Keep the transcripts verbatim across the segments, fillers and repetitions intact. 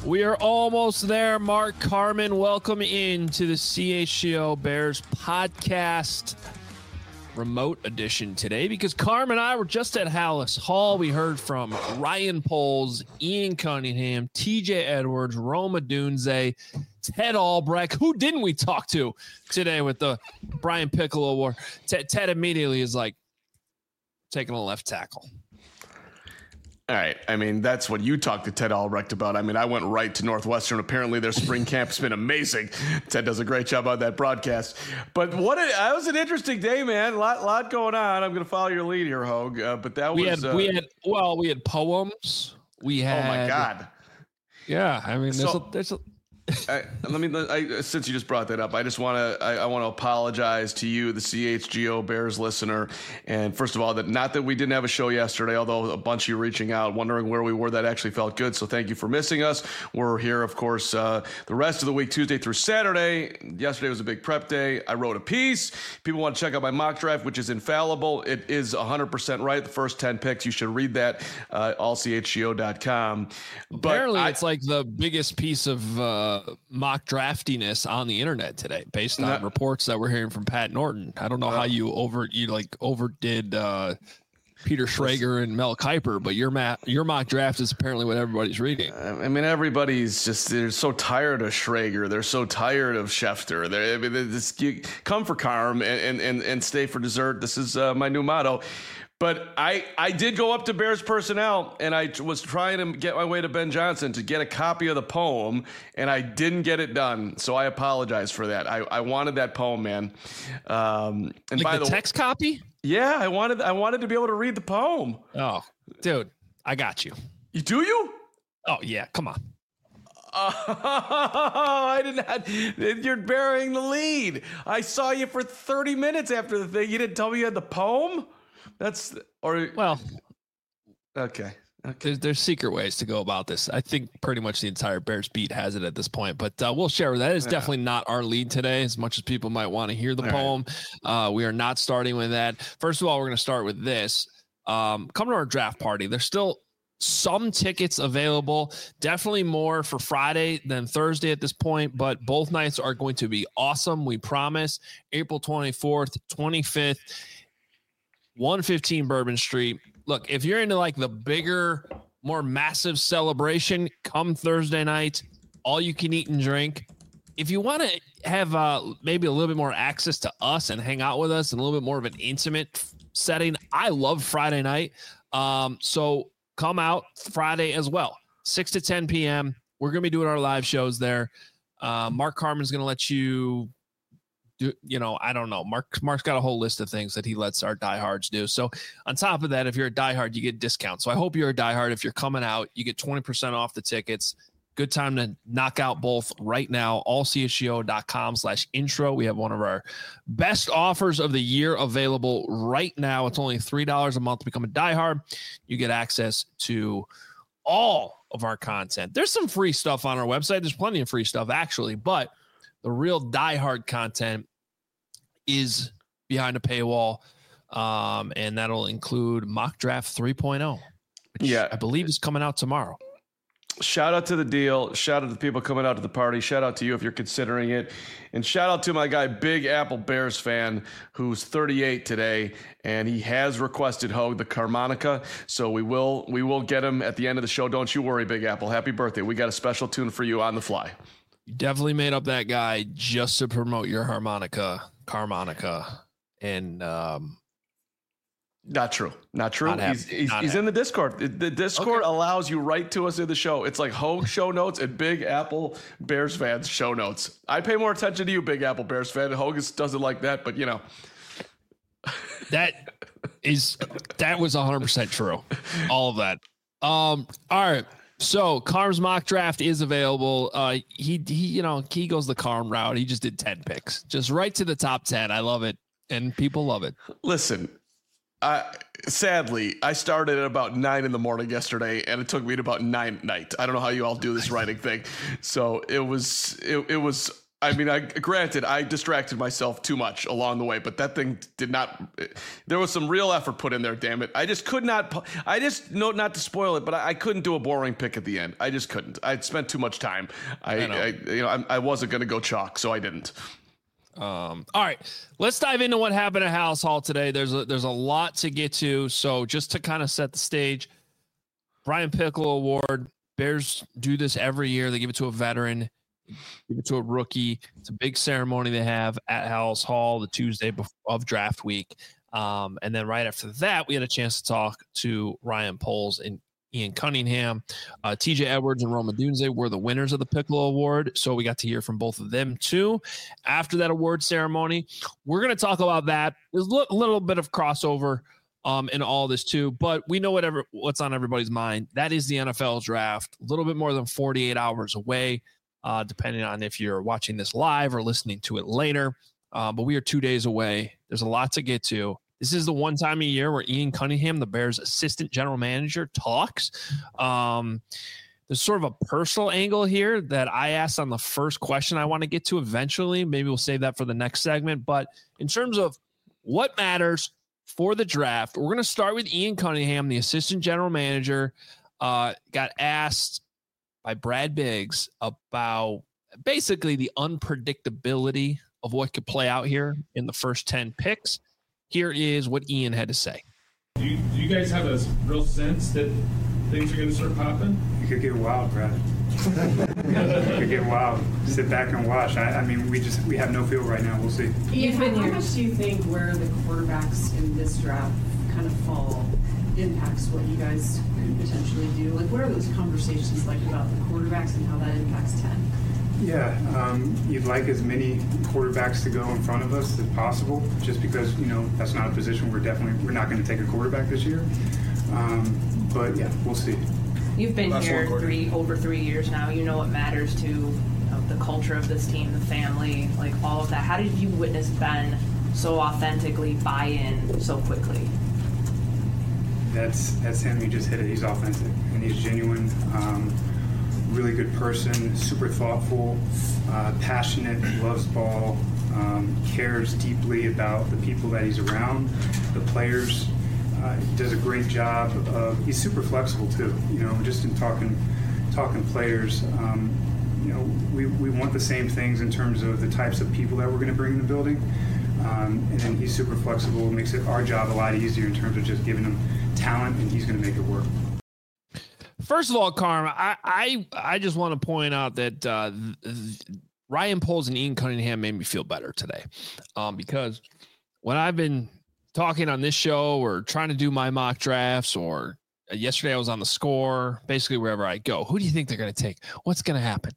We are almost there. Mark Carman, welcome into the C H G O Bears podcast remote edition today because Carm and I were just at Hallis Hall. We heard from Ryan Poles, Ian Cunningham, T J Edwards, Roma Dunze, Ted Albrecht. Who didn't we talk to today with the Brian Piccolo Award? Ted, Ted immediately is like taking a left tackle. All right. I mean, that's what you talked to Ted Albrecht about. I mean, I went right to Northwestern. Apparently, their spring camp's been amazing. Ted does a great job on that broadcast. But what a, that was an interesting day, man. A lot, lot going on. I'm going to follow your lead here, Hogue. Uh, but that we was had, uh, we had well, we had poems. We had. Oh my God. Yeah, I mean, there's So, a, there's a. I, let me. I, since you just brought that up, I just want to. I, I want to apologize to you, the C H G O Bears listener. And first of all, that not that we didn't have a show yesterday, although a bunch of you reaching out, wondering where we were. That actually felt good. So thank you for missing us. We're here, of course, uh, the rest of the week, Tuesday through Saturday. Yesterday was a big prep day. I wrote a piece. People want to check out my mock draft, which is infallible. It is one hundred percent right. The first ten picks. You should read that. Uh, all C H G O dot com. But Apparently, I, it's like the biggest piece of uh, mock draftiness on the internet today, based on Not, reports that we're hearing from Pat Norton. I don't know uh, how you over you like overdid uh, Peter Schrager and Mel Kiper, but your ma- your mock draft is apparently what everybody's reading. I mean, everybody's just they're so tired of Schrager. They're so tired of Schefter. They're, I mean, they're just, you come for Carm and and and stay for dessert. This is uh, my new motto. But I, I did go up to Bears Personnel, and I was trying to get my way to Ben Johnson to get a copy of the poem, and I didn't get it done. So I apologize for that. I, I wanted that poem, man. Um, and like by the, the text copy? Yeah, I wanted I wanted to be able to read the poem. Oh, dude, I got you. You do you? Oh yeah, come on. Oh, I did not. You're burying the lead. I saw you for thirty minutes after the thing. You didn't tell me you had the poem? That's or well, okay. Okay. There's, there's secret ways to go about this. I think pretty much the entire Bears beat has it at this point, but uh, we'll share that. Is yeah. definitely not our lead today, as much as people might want to hear the all poem. Right. Uh, we are not starting with that. First of all, we're going to start with this. Um, come to our draft party. There's still some tickets available, definitely more for Friday than Thursday at this point, but both nights are going to be awesome. We promise. April twenty-fourth, twenty-fifth. one fifteen Bourbon Street. Look, if you're into like the bigger, more massive celebration, come Thursday night, all you can eat and drink. If you want to have uh, maybe a little bit more access to us and hang out with us and a little bit more of an intimate setting, I love Friday night. Um, so come out Friday as well, six to ten p.m. We're going to be doing our live shows there. Uh, Mark Carman's going to let you do, you know, I don't know. Mark, Mark's got a whole list of things that he lets our diehards do. So on top of that, if you're a diehard, you get discounts. So I hope you're a diehard. If you're coming out, you get twenty percent off the tickets. Good time to knock out both right now. all c h g o dot com slash intro. We have one of our best offers of the year available right now. It's only three dollars a month to become a diehard. You get access to all of our content. There's some free stuff on our website. There's plenty of free stuff, actually, but the real diehard content is behind a paywall, um, and that'll include Mock Draft three point oh, which yeah. I believe is coming out tomorrow. Shout out to the deal. Shout out to the people coming out to the party. Shout out to you if you're considering it. And shout out to my guy, Big Apple Bears fan, who's thirty-eight today, and he has requested Hogue the Carmonica. So we will we will get him at the end of the show. Don't you worry, Big Apple. Happy birthday. We got a special tune for you on the fly. You definitely made up that guy just to promote your harmonica, Carmonica, and um, not true, not true. Not he's he's, not he's in the Discord. The Discord okay. allows you right to us in the show. It's like Hogue show notes and Big Apple Bears fans show notes. I pay more attention to you, Big Apple Bears fan. Hogue doesn't like that, but you know, that is that was one hundred percent true. All of that. Um. All right. So Carm's mock draft is available. Uh, he, he, you know, he goes the Carm route. He just did ten picks, just right to the top ten. I love it, and people love it. Listen, I sadly I started at about nine in the morning yesterday, and it took me to about nine at night. I don't know how you all do this writing thing. So it was, it, it was. I mean, I granted, I distracted myself too much along the way, but that thing did not. There was some real effort put in there. Damn it! I just could not. I just know not to spoil it, but I, I couldn't do a boring pick at the end. I just couldn't. I'd spent too much time. I, I, know. I you know, I, I wasn't going to go chalk, so I didn't. Um, all right, let's dive into what happened at Halas Hall today. There's a, there's a lot to get to. So just to kind of set the stage, Brian Piccolo Award. Bears do this every year. They give it to a veteran, give it to a rookie. It's a big ceremony they have at Halas Hall the Tuesday of draft week. Um, and then right after that, we had a chance to talk to Ryan Poles and Ian Cunningham. Uh, T J Edwards and Rome Odunze were the winners of the Piccolo Award, so we got to hear from both of them too. After that award ceremony, we're going to talk about that. There's a little bit of crossover um, in all this too, but we know whatever what's on everybody's mind. That is the N F L draft, a little bit more than forty-eight hours away, uh, depending on if you're watching this live or listening to it later. Uh, but we are two days away. There's a lot to get to. This is the one time a year where Ian Cunningham, the Bears' assistant general manager, talks. Um, there's sort of a personal angle here that I asked on the first question I want to get to eventually. Maybe we'll save that for the next segment. But in terms of what matters for the draft, we're going to start with Ian Cunningham, the assistant general manager. Uh, got asked by Brad Biggs about basically the unpredictability of what could play out here in the first ten picks. Here is what Ian had to say. Do you, do you guys have a real sense that things are going to start popping? It could get wild, Brad. It could get wild. Sit back and watch. I, I mean, we just we have no feel right now. We'll see. Ian, how, how much do you think where the quarterbacks in this draft kind of fall impacts what you guys could potentially do? Like, what are those conversations like about the quarterbacks and how that impacts ten? Yeah, um, you'd like as many quarterbacks to go in front of us as possible, just because, you know, that's not a position we're definitely, we're not going to take a quarterback this year. Um, but yeah, we'll see. You've been Last here three over three years now. You know what matters to you know, the culture of this team, the family, like all of that. How did you witness Ben so authentically buy in so quickly? That's that's him. He just hit it. He's authentic and he's genuine. Um, really good person, super thoughtful, uh, passionate, loves ball, um, cares deeply about the people that he's around, the players. Uh, he does a great job of, he's super flexible too, you know, just in talking talking players. Um, you know, we, we want the same things in terms of the types of people that we're going to bring in the building. Um, and then he's super flexible, makes it our job a lot easier in terms of just giving him talent, and he's going to make it work. First of all, Carm, I, I I just want to point out that uh, th- Ryan Poles and Ian Cunningham made me feel better today, um, because when I've been talking on this show or trying to do my mock drafts, or yesterday I was on The Score, basically wherever I go, who do you think they're going to take? What's going to happen?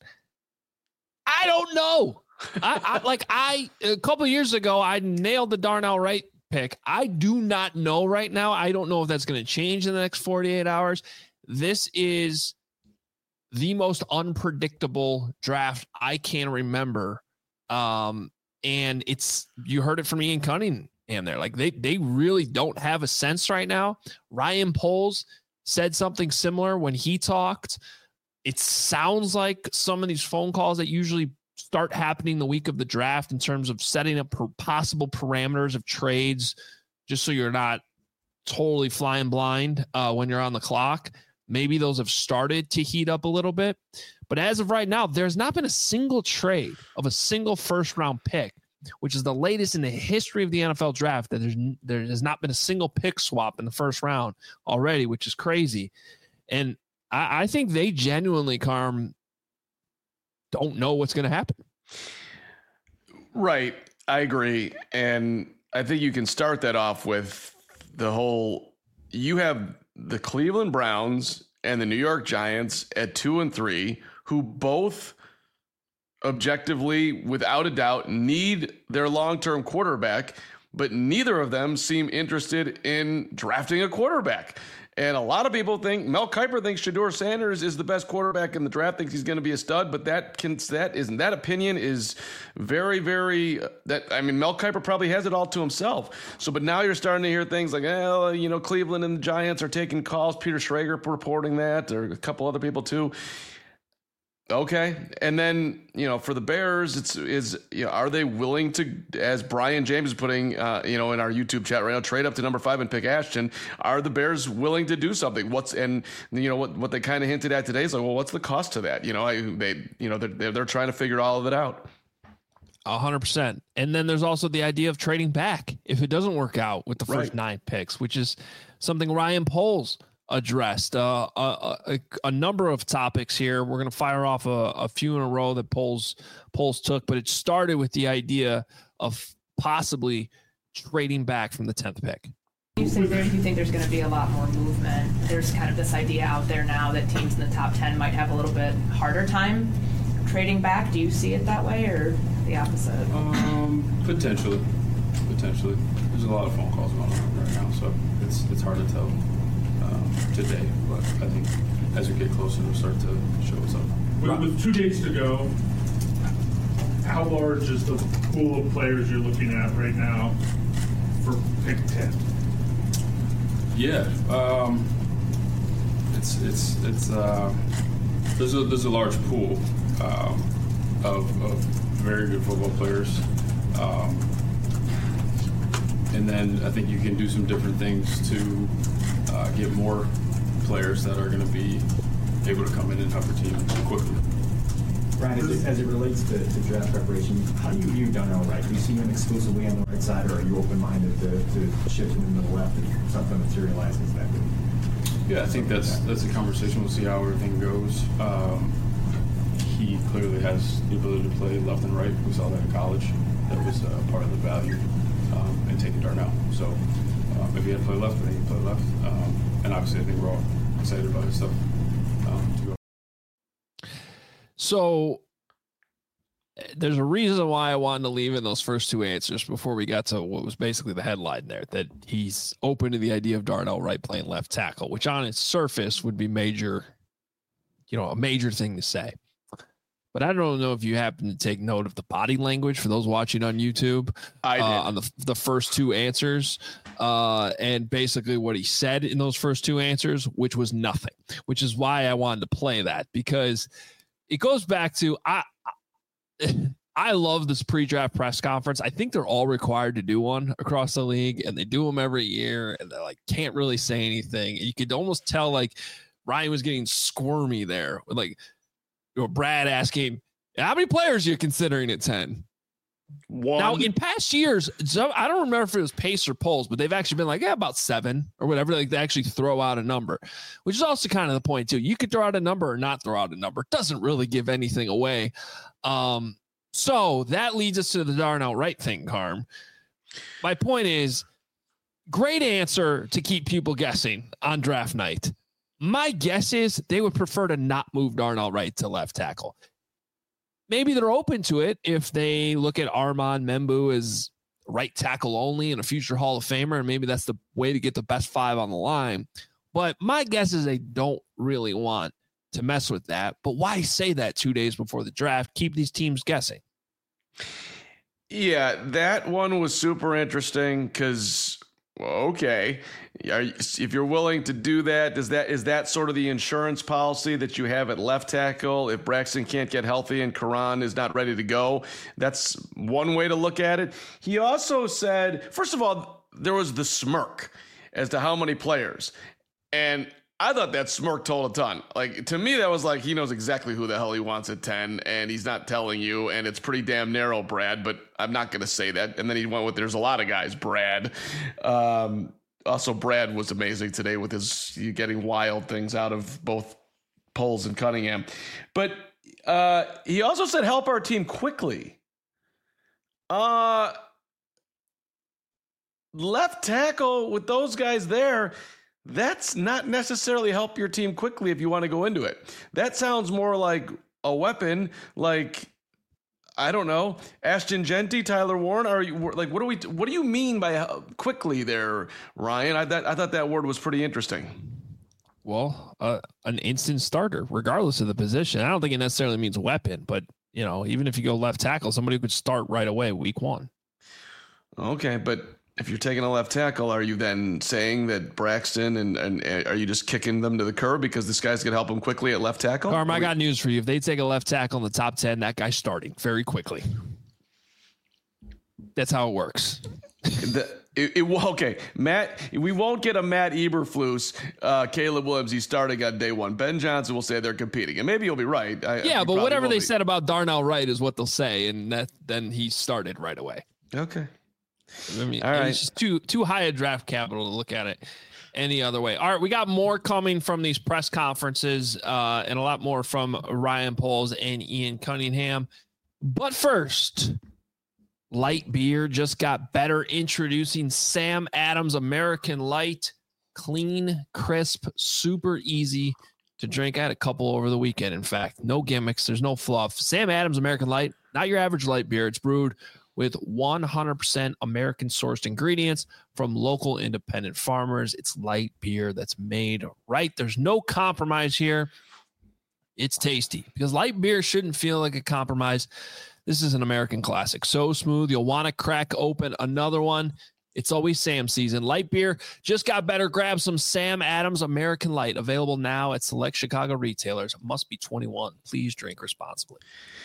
I don't know. I, I like I a couple of years ago I nailed the Darnell Wright pick. I do not know right now. I don't know if that's going to change in the next forty-eight hours. This is the most unpredictable draft I can remember. Um, and it's, you heard it from Ian Cunningham there. Like they, they really don't have a sense right now. Ryan Poles said something similar when he talked. It sounds like some of these phone calls that usually start happening the week of the draft in terms of setting up possible parameters of trades, just so you're not totally flying blind uh, when you're on the clock. Maybe those have started to heat up a little bit. But as of right now, there's not been a single trade of a single first-round pick, which is the latest in the history of the N F L draft, that there's, there has not been a single pick swap in the first round already, which is crazy. And I, I think they genuinely, Carm, don't know what's going to happen. Right. I agree. And I think you can start that off with the whole, you have the Cleveland Browns and the New York Giants at two and three, who both objectively, without a doubt, need their long-term quarterback, but neither of them seem interested in drafting a quarterback. And a lot of people think Mel Kiper thinks Shedeur Sanders is the best quarterback in the draft, thinks he's going to be a stud, but that can, that isn't, that opinion is very, very, that, I mean, Mel Kiper probably has it all to himself. So, but now you're starting to hear things like, oh, you know, Cleveland and the Giants are taking calls. Peter Schrager reporting that, or a couple other people too. Okay. And then, you know, for the Bears, it's, is, you know, are they willing to, as Brian James is putting, uh, you know, in our YouTube chat right now, trade up to number five and pick Ashton? Are the Bears willing to do something? What's, and, you know, what, what they kind of hinted at today is like, well, what's the cost to that? You know, I, they, you know, they're, they're trying to figure all of it out. A hundred percent. And then there's also the idea of trading back if it doesn't work out with the first Right. nine picks, which is something Ryan Poles addressed. Uh, a, a, a number of topics here. We're going to fire off a, a few in a row that Poles Poles took, but it started with the idea of possibly trading back from the tenth pick. You say there, you think there's going to be a lot more movement. There's kind of this idea out there now that teams in the top ten might have a little bit harder time trading back. Do you see it that way or the opposite? Um, potentially, potentially. There's a lot of phone calls going on right now, so it's it's hard to tell um, today. But I think as we get closer, it'll start to show us up. With, with two days to go, how large is the pool of players you're looking at right now for pick ten? Yeah, um, it's it's it's uh, there's a there's a large pool um, of, of very good football players, um, and then I think you can do some different things to uh, get more players that are going to be able to come in and help your team quickly. Ryan, as it, as it relates to, to draft preparation, how do you view Darnell Wright? Do you see him exclusively on the right side, or are you open-minded to, to shifting him to the left if something materializes that way? Yeah, I think that's that's a conversation. We'll see how everything goes. Um, he clearly has the ability to play left and right. We saw that in college. That was uh, part of the value um, in taking Darnell. So um, if he had to play left, then he could play left. Um, and obviously, I think we're all excited about his stuff um, to go. So there's a reason why I wanted to leave in those first two answers before we got to what was basically the headline there, that he's open to the idea of Darnell Wright playing left tackle, which on its surface would be major, you know, a major thing to say. But I don't know if you happen to take note of the body language for those watching on YouTube. I did. Uh, on the the first two answers, uh, and basically what he said in those first two answers, which was nothing, which is why I wanted to play that, because it goes back to I. I love this pre-draft press conference. I think they're all required to do one across the league, and they do them every year, and they like can't really say anything. You could almost tell like Ryan was getting squirmy there, with like you know, Brad asking, "How many players are you considering at ten?" One. Now, in past years, so I don't remember if it was Pace or Polls, but they've actually been like, yeah, about seven or whatever. Like they actually throw out a number, which is also kind of the point too. You could throw out a number or not throw out a number. It doesn't really give anything away. Um, so that leads us to the Darnell Wright thing, Carm. My point is, great answer to keep people guessing on draft night. My guess is they would prefer to not move Darnell Wright to left tackle. Maybe they're open to it if they look at Armand Membu as right tackle only and a future Hall of Famer, and maybe that's the way to get the best five on the line. But my guess is they don't really want to mess with that. But why say that two days before the draft? Keep these teams guessing. Yeah, that one was super interesting because, okay, are you, if you're willing to do that, does that is that sort of the insurance policy that you have at left tackle? If Braxton can't get healthy and Karan is not ready to go, that's one way to look at it. He also said, first of all, there was the smirk as to how many players, and I thought that smirk told a ton. Like, to me, that was like, he knows exactly who the hell he wants at ten, and he's not telling you, and it's pretty damn narrow, Brad, but I'm not going to say that. And then he went with, there's a lot of guys, Brad. Um, also, Brad was amazing today with his getting wild things out of both Poles and Cunningham. But uh, he also said, help our team quickly. Uh, left tackle with those guys there, that's not necessarily help your team quickly if you want to go into it. That sounds more like a weapon, like, I don't know, Ashton Genty, Tyler Warren. Are you like, what do we, what do you mean by quickly there, Ryan? I, that, I thought that word was pretty interesting. Well, uh, an instant starter, regardless of the position. I don't think it necessarily means weapon, but you know, even if you go left tackle, somebody who could start right away week one. Okay, but if you're taking a left tackle, are you then saying that Braxton and, and, and are you just kicking them to the curb because this guy's going to help them quickly at left tackle? Carm, I got news for you. If they take a left tackle in the top ten, that guy's starting very quickly. That's how it works. the, it, it, okay, Matt, we won't get a Matt Eberflus, uh, Caleb Williams. He's starting on day one. Ben Johnson will say they're competing, and maybe you'll be right. I, yeah, but whatever they be. said about Darnell Wright is what they'll say, and that then he started right away. Okay. I mean, all right. It's just too too high a draft capital to look at it any other way. All right, we got more coming from these press conferences, uh, and a lot more from Ryan Poles and Ian Cunningham. But first, Light Beer just got better, introducing Sam Adams American Light. Clean, crisp, super easy to drink. I had a couple over the weekend, in fact. No gimmicks. There's no fluff. Sam Adams American Light, not your average light beer. It's brewed with one hundred percent American-sourced ingredients from local independent farmers. It's light beer that's made right. There's no compromise here. It's tasty because light beer shouldn't feel like a compromise. This is an American classic. So smooth, you'll want to crack open another one. It's always Sam season. Light beer just got better. Grab some Sam Adams American Light, available now at select Chicago retailers. Must be twenty-one. Please drink responsibly.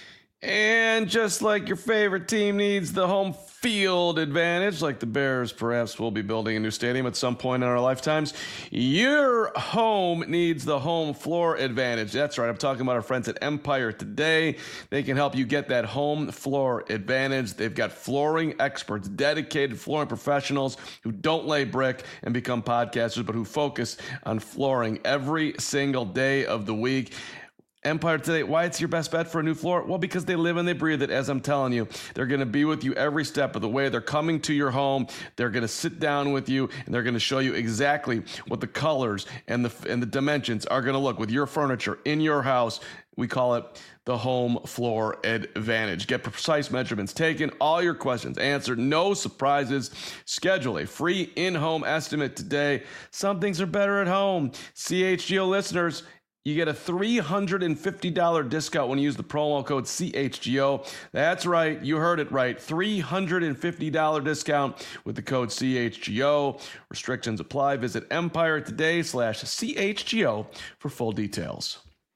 And just like your favorite team needs the home field advantage, like the Bears perhaps will be building a new stadium at some point in our lifetimes, your home needs the home floor advantage. That's right. I'm talking about our friends at Empire Today. They can help you get that home floor advantage. They've got flooring experts, dedicated flooring professionals who don't lay brick and become podcasters, but who focus on flooring every single day of the week. Empire Today, why it's your best bet for a new floor? Well, because they live and they breathe it, as I'm telling you. They're going to be with you every step of the way. They're coming to your home. They're going to sit down with you, and they're going to show you exactly what the colors and the and the dimensions are going to look with your furniture in your house. We call it the home floor advantage. Get precise measurements taken, all your questions answered, no surprises. Schedule a free in-home estimate today. Some things are better at home. C H G O listeners, you get a three hundred fifty dollars discount when you use the promo code C H G O. That's right. You heard it right. three hundred fifty dollars discount with the code C H G O. Restrictions apply. Visit Empire Today slash C H G O for full details.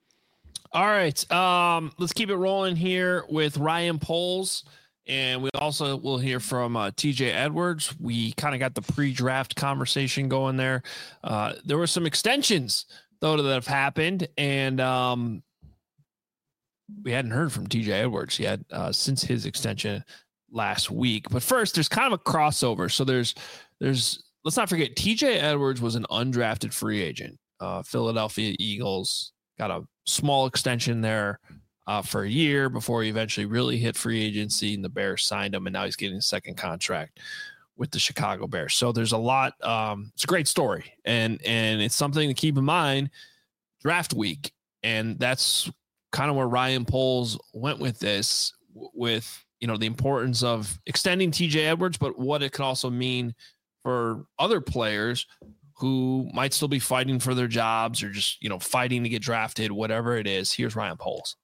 All right. Um, let's keep it rolling here with Ryan Poles. And we also will hear from uh, T J Edwards. We kind of got the pre-draft conversation going there. Uh, there were some extensions though that have happened, and um, we hadn't heard from T J Edwards yet uh, since his extension last week. But first, there's kind of a crossover. So there's, there's. Let's not forget, T J Edwards was an undrafted free agent. Uh, Philadelphia Eagles got a small extension there uh, for a year before he eventually really hit free agency, and the Bears signed him, and now he's getting a second contract with the Chicago Bears. So there's a lot. Um, it's a great story, and and it's something to keep in mind draft week. And that's kind of where Ryan Poles went with this, with, you know, the importance of extending T J Edwards, but what it could also mean for other players who might still be fighting for their jobs or just, you know, fighting to get drafted, whatever it is. Here's Ryan Poles.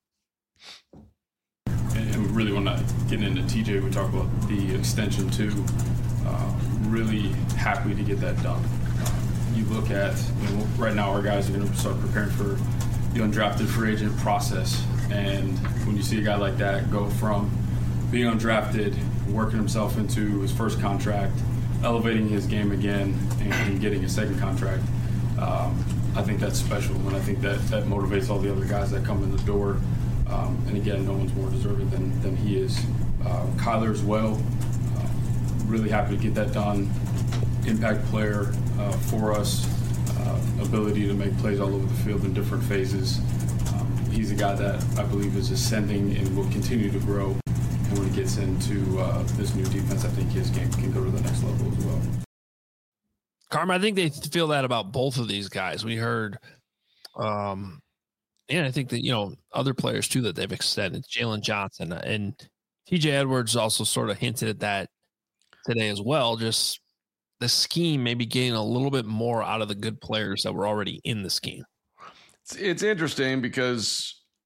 And we really want to get into T J. We talk about the extension too. Uh, really happy to get that done. Uh, you look at, you know, right now our guys are going to start preparing for the undrafted free agent process. And when you see a guy like that go from being undrafted, working himself into his first contract, elevating his game again, and, and getting a second contract, um, I think that's special. And I think that, that motivates all the other guys that come in the door. Um, and again, no one's more deserving than, than he is. Uh, Kyler as well. Really happy to get that done. Impact player uh, for us, uh, ability to make plays all over the field in different phases. Um, he's a guy that I believe is ascending and will continue to grow. And when he gets into uh, this new defense, I think his game can go to the next level as well. Carmen, I think they feel that about both of these guys. We heard, um, and I think that, you know, other players too that they've extended, Jalen Johnson and T J Edwards also sort of hinted at that today as well. Just the scheme maybe getting a little bit more out of the good players that were already in the scheme. It's, it's interesting because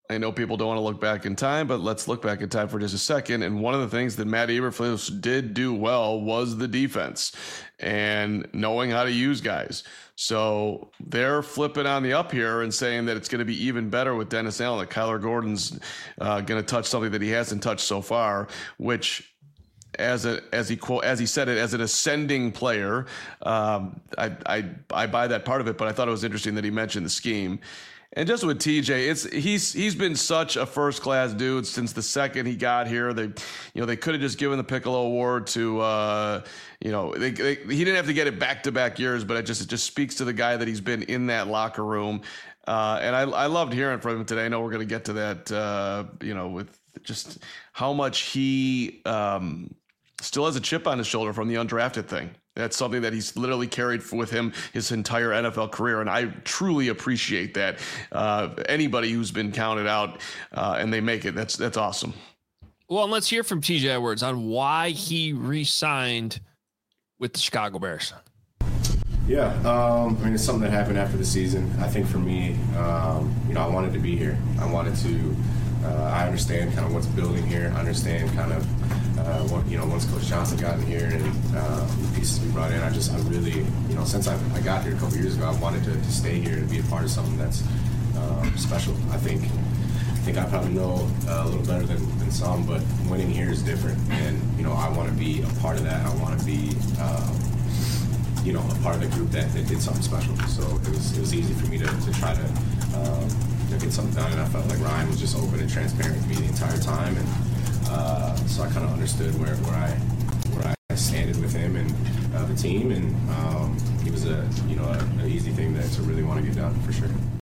I know people don't want to look back in time, but let's look back in time for just a second. And one of the things that Matt Eberflus did do well was the defense and knowing how to use guys. So they're flipping on the up here and saying that it's going to be even better with Dennis Allen, that Kyler Gordon's uh, going to touch something that he hasn't touched so far, which as a, as he quote, as he said it, as an ascending player, um, I, I, I buy that part of it, but I thought it was interesting that he mentioned the scheme. And just with T J, it's he's he's been such a first class dude since the second he got here. They, you know, they could have just given the Piccolo Award to, uh, you know, they, they, he didn't have to get it back to back years, but it just it just speaks to the guy that he's been in that locker room. Uh, and I I loved hearing from him today. I know we're going to get to that, uh, you know, with just how much he um, still has a chip on his shoulder from the undrafted thing. That's something that he's literally carried with him his entire N F L career, and I truly appreciate that. Uh, anybody who's been counted out uh, and they make it, that's that's awesome. Well, and let's hear from T J Edwards on why he re-signed with the Chicago Bears. Yeah, um, I mean, it's something that happened after the season. I think for me, um, you know, I wanted to be here. I wanted to. Uh, I understand kind of what's building here. I understand kind of. Uh, what, you know, once Coach Johnson got in here and uh, the pieces we brought in, I just, I really, you know, since I, I got here a couple years ago, I wanted to, to stay here and be a part of something that's uh, special. I think, I think I probably know uh, a little better than, than some, but winning here is different, and you know, I want to be a part of that. I want to be, uh, you know, a part of the group that, that did something special. So it was, it was easy for me to, to try to, uh, to get something done, and I felt like Ryan was just open and transparent with me the entire time, and. Uh, so I kind of understood where, where I where I standed with him and uh, the team, and um, he was a you know an easy thing that to really want to get done for sure.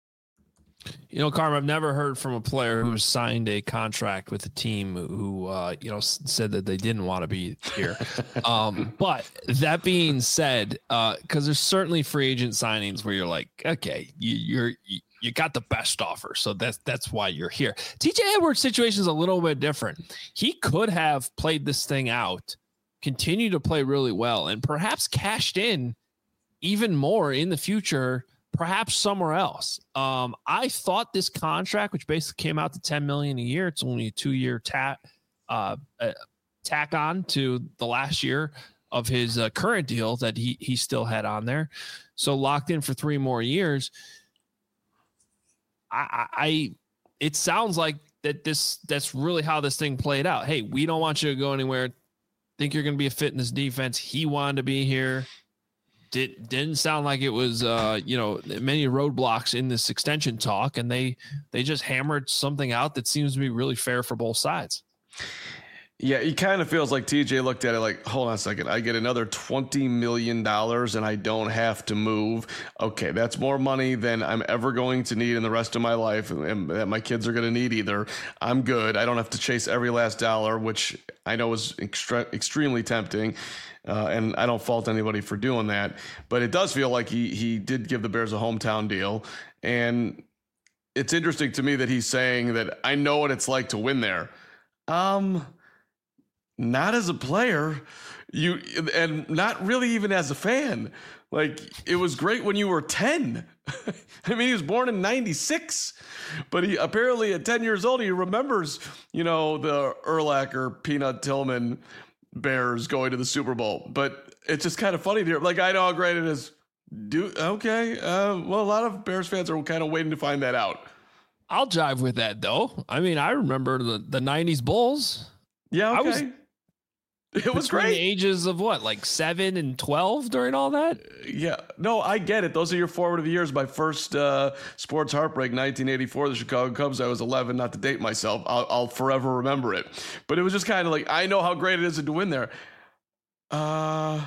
You know, Carm, I've never heard from a player who signed a contract with a team who uh, you know said that they didn't want to be here. um, but that being said, because uh, there's certainly free agent signings where you're like, okay, you, you're. You, You got the best offer, so that's that's why you're here. T J Edwards' situation is a little bit different. He could have played this thing out, continued to play really well, and perhaps cashed in even more in the future, perhaps somewhere else. Um, I thought this contract, which basically came out to ten million dollars a year, it's only a two-year tack uh, uh, tack on to the last year of his uh, current deal that he he still had on there, so locked in for three more years. I, I, it sounds like that this, that's really how this thing played out. Hey, we don't want you to go anywhere. Think you're going to be a fit in this defense. He wanted to be here. Did, didn't sound like it was, uh, you know, many roadblocks in this extension talk, and they, they just hammered something out that seems to be really fair for both sides. Yeah, it kind of feels like T J looked at it like, hold on a second, I get another twenty million dollars and I don't have to move. Okay, that's more money than I'm ever going to need in the rest of my life and that my kids are going to need either. I'm good. I don't have to chase every last dollar, which I know is extra- extremely tempting. Uh, and I don't fault anybody for doing that. But it does feel like he he did give the Bears a hometown deal. And it's interesting to me that he's saying that I know what it's like to win there. Um... Not as a player, you and not really even as a fan. Like, it was great when you were ten. I mean, he was born in ninety-six, but he apparently at ten years old, he remembers, you know, the Urlacher, Peanut Tillman Bears going to the Super Bowl. But it's just kind of funny to hear. Like, I know how great it is. Do okay. Uh, well, a lot of Bears fans are kind of waiting to find that out. I'll jive with that, though. I mean, I remember the, the nineties Bulls. Yeah, okay. I was, It was Between great. The ages of what, like seven and twelve during all that? Yeah. No, I get it. Those are your formative years. My first uh, sports heartbreak, nineteen eighty-four, the Chicago Cubs. I was eleven, not to date myself. I'll, I'll forever remember it. But it was just kind of like, I know how great it is to win there. Uh,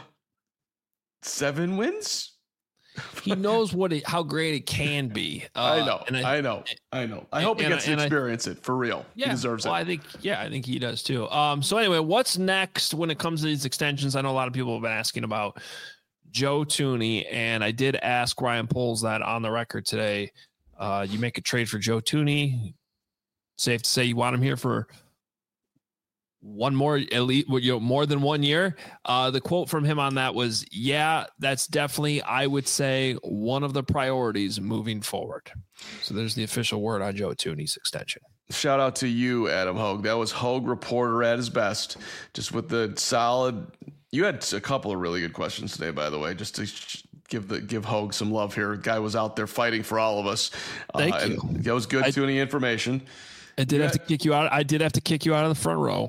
seven wins? He knows what it, how great it can be. Uh, I know, and I, I know, I know. I hope he gets to experience I, it for real. Yeah, he deserves well, it. I think, yeah, I think he does too. Um, so anyway, what's next when it comes to these extensions? I know a lot of people have been asking about Joe Thuney, and I did ask Ryan Poles that on the record today. Uh, you make a trade for Joe Thuney. Safe to say you want him here for one more elite, you know, more than one year. Uh, the quote from him on that was, yeah, that's definitely, I would say, one of the priorities moving forward. So there's the official word on Joe Thuney's extension. Shout out to you, Adam Hogue. That was Hogue reporter at his best, just with the solid. You had a couple of really good questions today, by the way, just to give the give Hogue some love here. Guy was out there fighting for all of us. Thank uh, you. That was good Thuney information. I did yeah. have to kick you out. I did have to kick you out of the front row,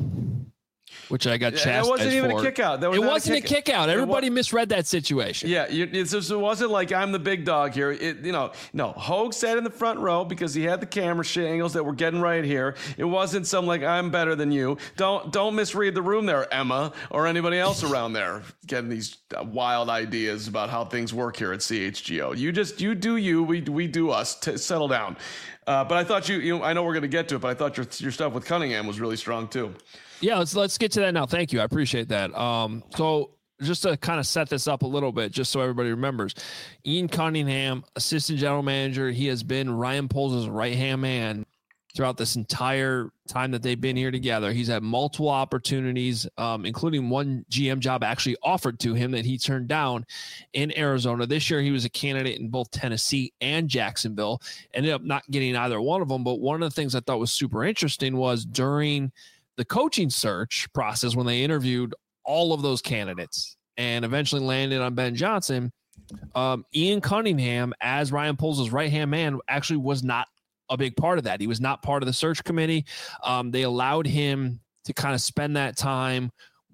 which I got chastised for. It wasn't even a kick out. That was it wasn't a kick, a kick out. Everybody misread that situation. Yeah, you, it, just, it wasn't like I'm the big dog here. It, you know, no. Hogue sat in the front row because he had the camera angles that were getting right here. It wasn't some like I'm better than you. Don't don't misread the room there, Emma, or anybody else around there getting these wild ideas about how things work here at C H G O. You just you do you. We we do us. T- settle down. Uh, but I thought you, you know, I know we're going to get to it, but I thought your your stuff with Cunningham was really strong too. Yeah, let's let's get to that now. Thank you, I appreciate that. Um, so just to kind of set this up a little bit, just so everybody remembers, Ian Cunningham, assistant general manager, he has been Ryan Poles' right hand man throughout this entire time that they've been here together. He's had multiple opportunities, um, including one G M job actually offered to him that he turned down in Arizona. This year, he was a candidate in both Tennessee and Jacksonville. Ended up not getting either one of them. But one of the things I thought was super interesting was during the coaching search process, when they interviewed all of those candidates and eventually landed on Ben Johnson, um, Ian Cunningham, as Ryan Poles' right-hand man, actually was not a big part of that. He was not part of the search committee. Um, they allowed him to kind of spend that time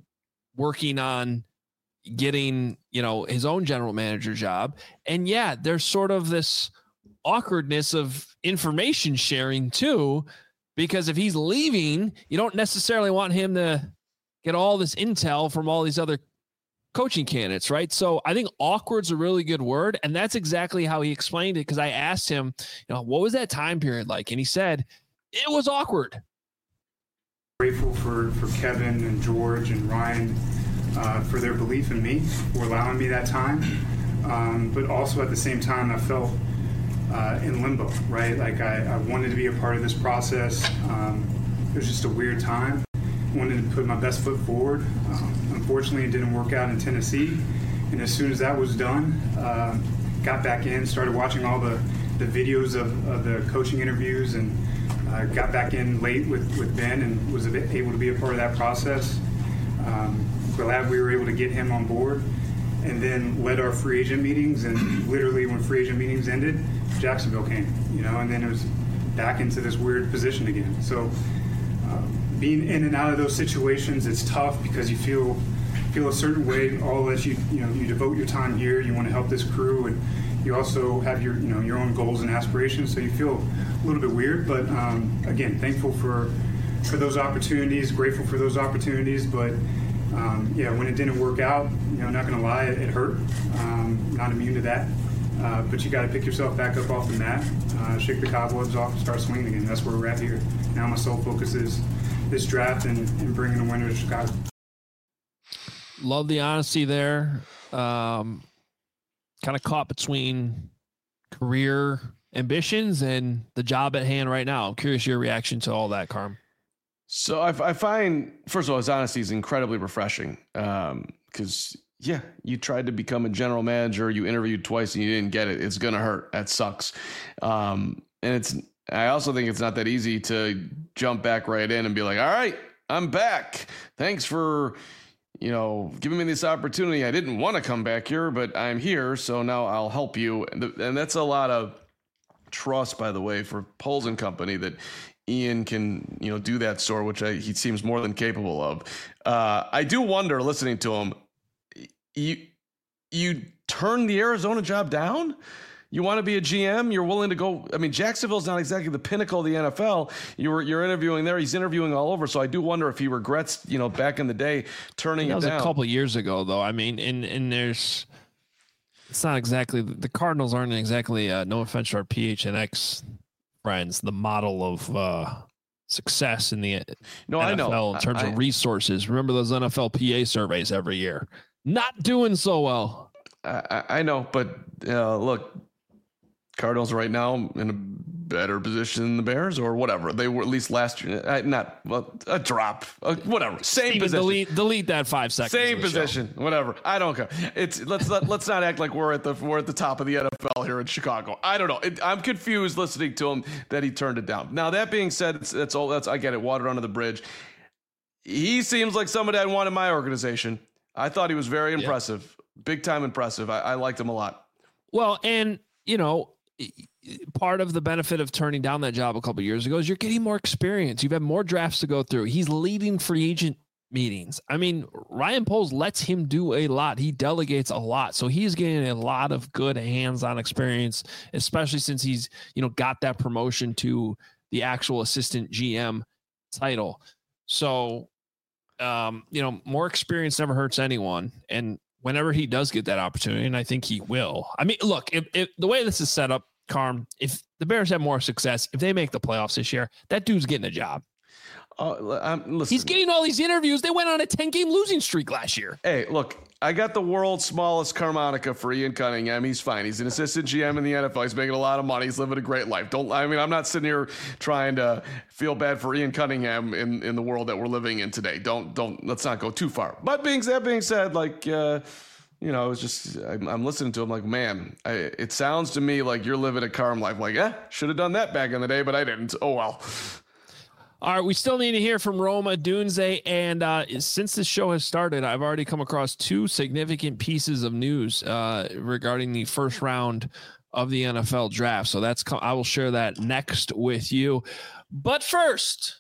working on getting, you know, his own general manager job. And yeah, there's sort of this awkwardness of information sharing too, because if he's leaving, you don't necessarily want him to get all this intel from all these other coaching candidates, right? So I think awkward's a really good word. And that's exactly how he explained it. Because I asked him, you know, what was that time period like? And he said, it was awkward. Grateful for, for Kevin and George and Ryan uh, for their belief in me, for allowing me that time. Um, but also at the same time, I felt uh, in limbo, right? Like I, I wanted to be a part of this process. Um, it was just a weird time. Wanted to put my best foot forward. Um, unfortunately, it didn't work out in Tennessee. And as soon as that was done, uh, got back in, started watching all the, the videos of, of the coaching interviews, and uh, got back in late with, with Ben and was able to be a part of that process. Um, glad we were able to get him on board, and then led our free agent meetings. And literally when free agent meetings ended, Jacksonville came, you know, and then it was back into this weird position again. So um, being in and out of those situations, it's tough because you feel feel a certain way. All that you you know you devote your time here. You want to help this crew, and you also have your you know your own goals and aspirations. So you feel a little bit weird, but um, again, thankful for for those opportunities. Grateful for those opportunities, but um, yeah, when it didn't work out, you know, not going to lie, it, it hurt. Um, not immune to that, uh, but you got to pick yourself back up off the mat, uh, shake the cobwebs off, and start swinging again. That's where we're at here. Now my sole focus is this draft and, and bringing a winner to Chicago. Love the honesty there. Um, kind of caught between career ambitions and the job at hand right now. I'm curious your reaction to all that, Carm. So I, I find, first of all, his honesty is incredibly refreshing. Um, because yeah, you tried to become a general manager, you interviewed twice and you didn't get it. It's gonna hurt. That sucks. Um, and it's. I also think it's not that easy to jump back right in and be like, all right, I'm back. Thanks for, you know, giving me this opportunity. I didn't want to come back here, but I'm here. So now I'll help you. And, the, and that's a lot of trust, by the way, for Poles and company that Ian can, you know, do that sort, which I, he seems more than capable of. Uh, I do wonder, listening to him, you, you turned the Arizona job down? You want to be a G M? You're willing to go. I mean, Jacksonville's not exactly the pinnacle of the N F L. You were you're interviewing there. He's interviewing all over. So I do wonder if he regrets, you know, back in the day turning that it was down. A couple of years ago, though. I mean, and and there's it's not exactly the Cardinals aren't exactly. Uh, no offense to our P H N X friends, the model of uh, success in the no, N F L I know in terms I, of resources. Remember those N F L P A surveys every year? Not doing so well. I, I know, but uh, look. Cardinals right now in a better position than the Bears or whatever. They were at least last year. Uh, not well, a drop, uh, whatever. Same Steven, position. Delete, delete that five seconds. Same position, show. Whatever. I don't care. It's let's let, let's not act like we're at the we're at the top of the N F L here in Chicago. I don't know. It, I'm confused listening to him that he turned it down. Now that being said, it's, that's all. That's I get it. Water under the bridge. He seems like somebody I'd want in my organization. I thought he was very impressive, yeah. Big time impressive. I, I liked him a lot. Well, and you know, part of the benefit of turning down that job a couple of years ago is you're getting more experience. You've had more drafts to go through. He's leading free agent meetings. I mean, Ryan Poles lets him do a lot. He delegates a lot. So he's getting a lot of good hands-on experience, especially since he's, you know, got that promotion to the actual assistant G M title. So, um, you know, more experience never hurts anyone. And whenever he does get that opportunity, and I think he will. I mean, look, if, if the way this is set up, Carm, if the Bears have more success, if they make the playoffs this year, that dude's getting a job. Uh, I'm, listen, He's getting all these interviews. They went on a ten-game losing streak last year. Hey, look, I got the world's smallest harmonica for Ian Cunningham. He's fine. He's an assistant G M in the N F L. He's making a lot of money. He's living a great life. Don't I mean, I'm not sitting here trying to feel bad for Ian Cunningham in, in the world that we're living in today. Don't don't let's not go too far. But being that being said, like. Uh, You know, it's just, I'm, I'm listening to him like, man, I, it sounds to me like you're living a calm life. Like, eh, should have done that back in the day, but I didn't. Oh, well. All right, we still need to hear from Rome Odunze. And uh, since this show has started, I've already come across two significant pieces of news uh, regarding the first round of the N F L draft. So that's, I will share that next with you. But first,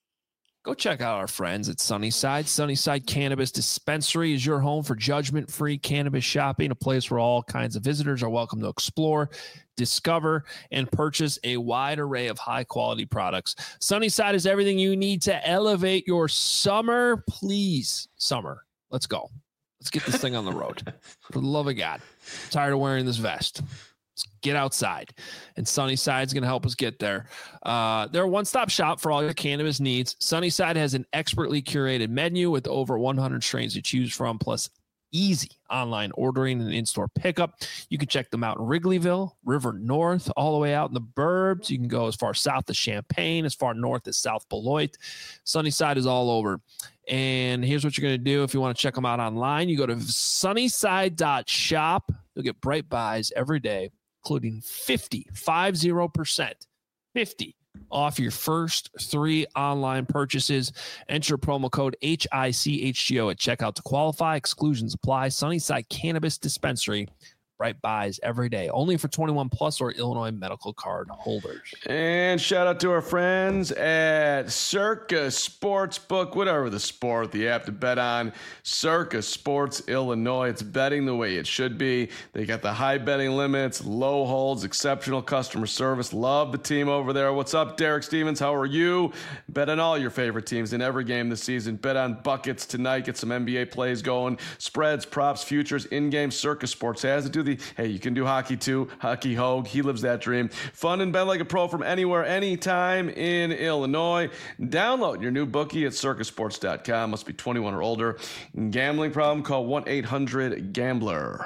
go check out our friends at Sunnyside. Sunnyside Cannabis Dispensary is your home for judgment-free cannabis shopping, a place where all kinds of visitors are welcome to explore, discover, and purchase a wide array of high-quality products. Sunnyside is everything you need to elevate your summer. Please, summer, let's go. Let's get this thing on the road. For the love of God. I'm tired of wearing this vest. Get outside, and Sunnyside's going to help us get there. Uh, they're a one-stop shop for all your cannabis needs. Sunnyside has an expertly curated menu with over one hundred strains to choose from, plus easy online ordering and in-store pickup. You can check them out in Wrigleyville, River North, all the way out in the burbs. You can go as far south as Champaign, as far north as South Beloit. Sunnyside is all over. And here's what you're going to do if you want to check them out online. You go to sunnyside dot shop. You'll get bright buys every day, including fifty, five zero percent, fifty off your first three online purchases. Enter promo code H I C H G O at checkout to qualify. Exclusions apply. Sunnyside Cannabis Dispensary. Bright buys every day. Only for twenty-one plus or Illinois medical card holders. And shout out to our friends at Circa Sportsbook, whatever the sport, the app to bet on. Circa Sports Illinois. It's betting the way it should be. They got the high betting limits, low holds, exceptional customer service. Love the team over there. What's up, Derek Stevens? How are you? Bet on all your favorite teams in every game this season. Bet on buckets tonight. Get some N B A plays going. Spreads, props, futures, in-game. Circa Sports has it. Do the Hey, you can do hockey too. Hockey Hogue, he lives that dream. Fun and bet like a pro from anywhere, anytime in Illinois. Download your new bookie at circa sports dot com. Must be twenty-one or older. Gambling problem? Call one eight hundred gambler.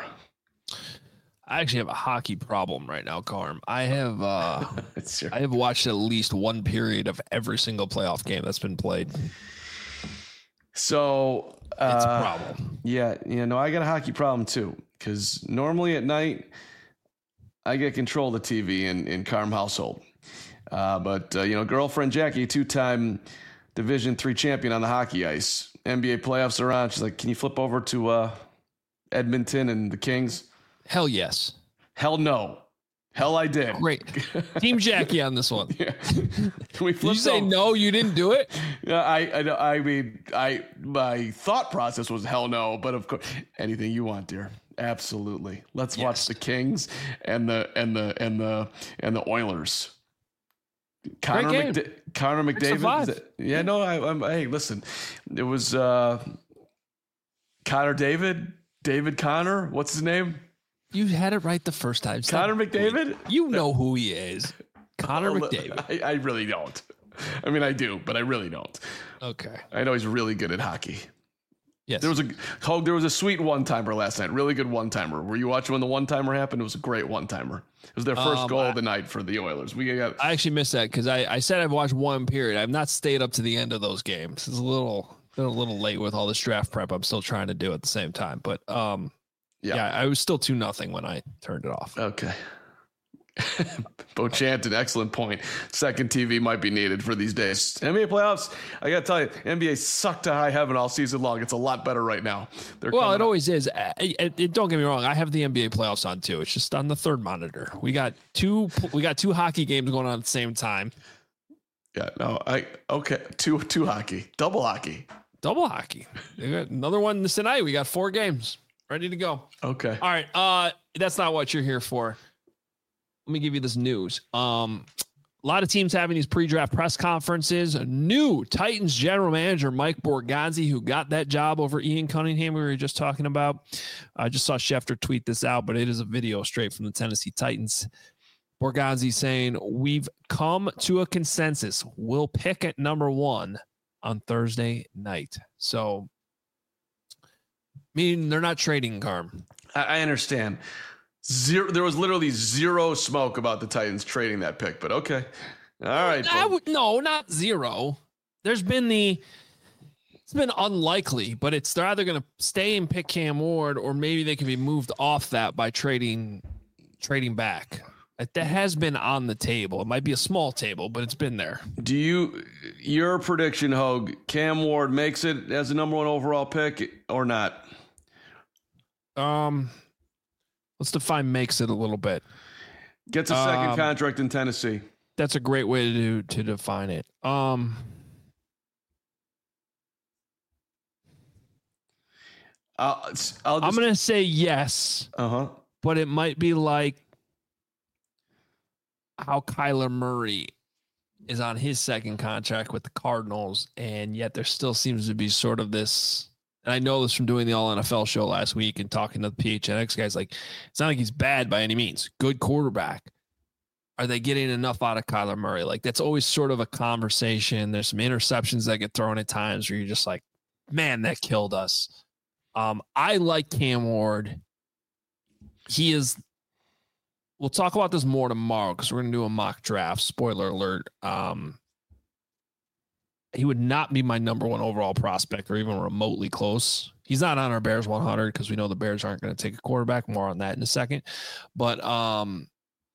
I actually have a hockey problem right now, Carm. I have uh, I have watched at least one period of every single playoff game that's been played. So uh, it's a problem. Yeah, you know, I got a hockey problem too. Because normally at night, I get control of the T V in, in Carm household. Uh, but, uh, you know, girlfriend Jackie, two-time Division three champion on the hockey ice. N B A playoffs are on. She's like, can you flip over to uh, Edmonton and the Kings? Hell yes. Hell no. Hell I did. Great. Team Jackie on this one. Yeah. We did you say over. No, you didn't do it? Yeah, I, I, I mean, I, my thought process was hell no, but of course, anything you want, dear. Absolutely. Let's yes. watch the Kings and the and the and the and the Oilers. Connor McDa- Connor McDavid. That, yeah, no, I, I'm. Hey, listen, it was uh, Connor David, David Connor. What's his name? You had it right the first time. Connor McDavid. You know who he is. Connor well, McDavid. I, I really don't. I mean, I do, but I really don't. Okay. I know he's really good at hockey. Yes. There was a Hogue, there was a sweet one-timer last night. Really good one-timer. Were you watching when the one-timer happened? It was a great one-timer. It was their first um, goal I, of the night for the Oilers. We got. I actually missed that because I, I said I've watched one period. I've not stayed up to the end of those games. It's a little been a little late with all this draft prep I'm still trying to do at the same time. But um, yeah, yeah I was still two nothing when I turned it off. Okay. Beauchamp, an excellent point. Second T V might be needed for these days. N B A playoffs, I got to tell you, N B A sucked to high heaven all season long. It's a lot better right now. They're well, it up. always is. It, it, it, don't get me wrong. I have the N B A playoffs on too. It's just on the third monitor. We got two. We got two hockey games going on at the same time. Yeah. No. I okay. Two two hockey. Double hockey. Double hockey. We got another one tonight. We got four games ready to go. Okay. All right. Uh, that's not what you're here for. Let me give you this news. Um, a lot of teams having these pre-draft press conferences. A new Titans general manager, Mike Borgonzi, who got that job over Ian Cunningham we were just talking about. I just saw Schefter tweet this out, but it is a video straight from the Tennessee Titans. Borgonzi saying, we've come to a consensus. We'll pick at number one on Thursday night. So, I mean, they're not trading Carm. I, I understand. Zero. There was literally zero smoke about the Titans trading that pick, but okay. All right. I would, no, not zero. There's been the, it's been unlikely, but it's they're either going to stay and pick Cam Ward, or maybe they can be moved off that by trading, trading back. That has been on the table. It might be a small table, but it's been there. Do you, your prediction, Hogue, Cam Ward makes it as a number one overall pick or not? Um, let's define makes it a little bit. Gets a second um, contract in Tennessee. That's a great way to to define it. Um, I'll, I'll just, I'm going to say yes. Uh-huh. But it might be like how Kyler Murray is on his second contract with the Cardinals, and yet there still seems to be sort of this, and I know this from doing the All N F L show last week and talking to the P H N X guys, like, it's not like he's bad by any means. Good quarterback. Are they getting enough out of Kyler Murray? Like, that's always sort of a conversation. There's some interceptions that get thrown at times where you're just like, man, that killed us. Um, I like Cam Ward. He is, we'll talk about this more tomorrow because we're going to do a mock draft. Spoiler alert. Um, he would not be my number one overall prospect or even remotely close. He's not on our Bears one hundred because we know the Bears aren't going to take a quarterback. More on that in a second. But um,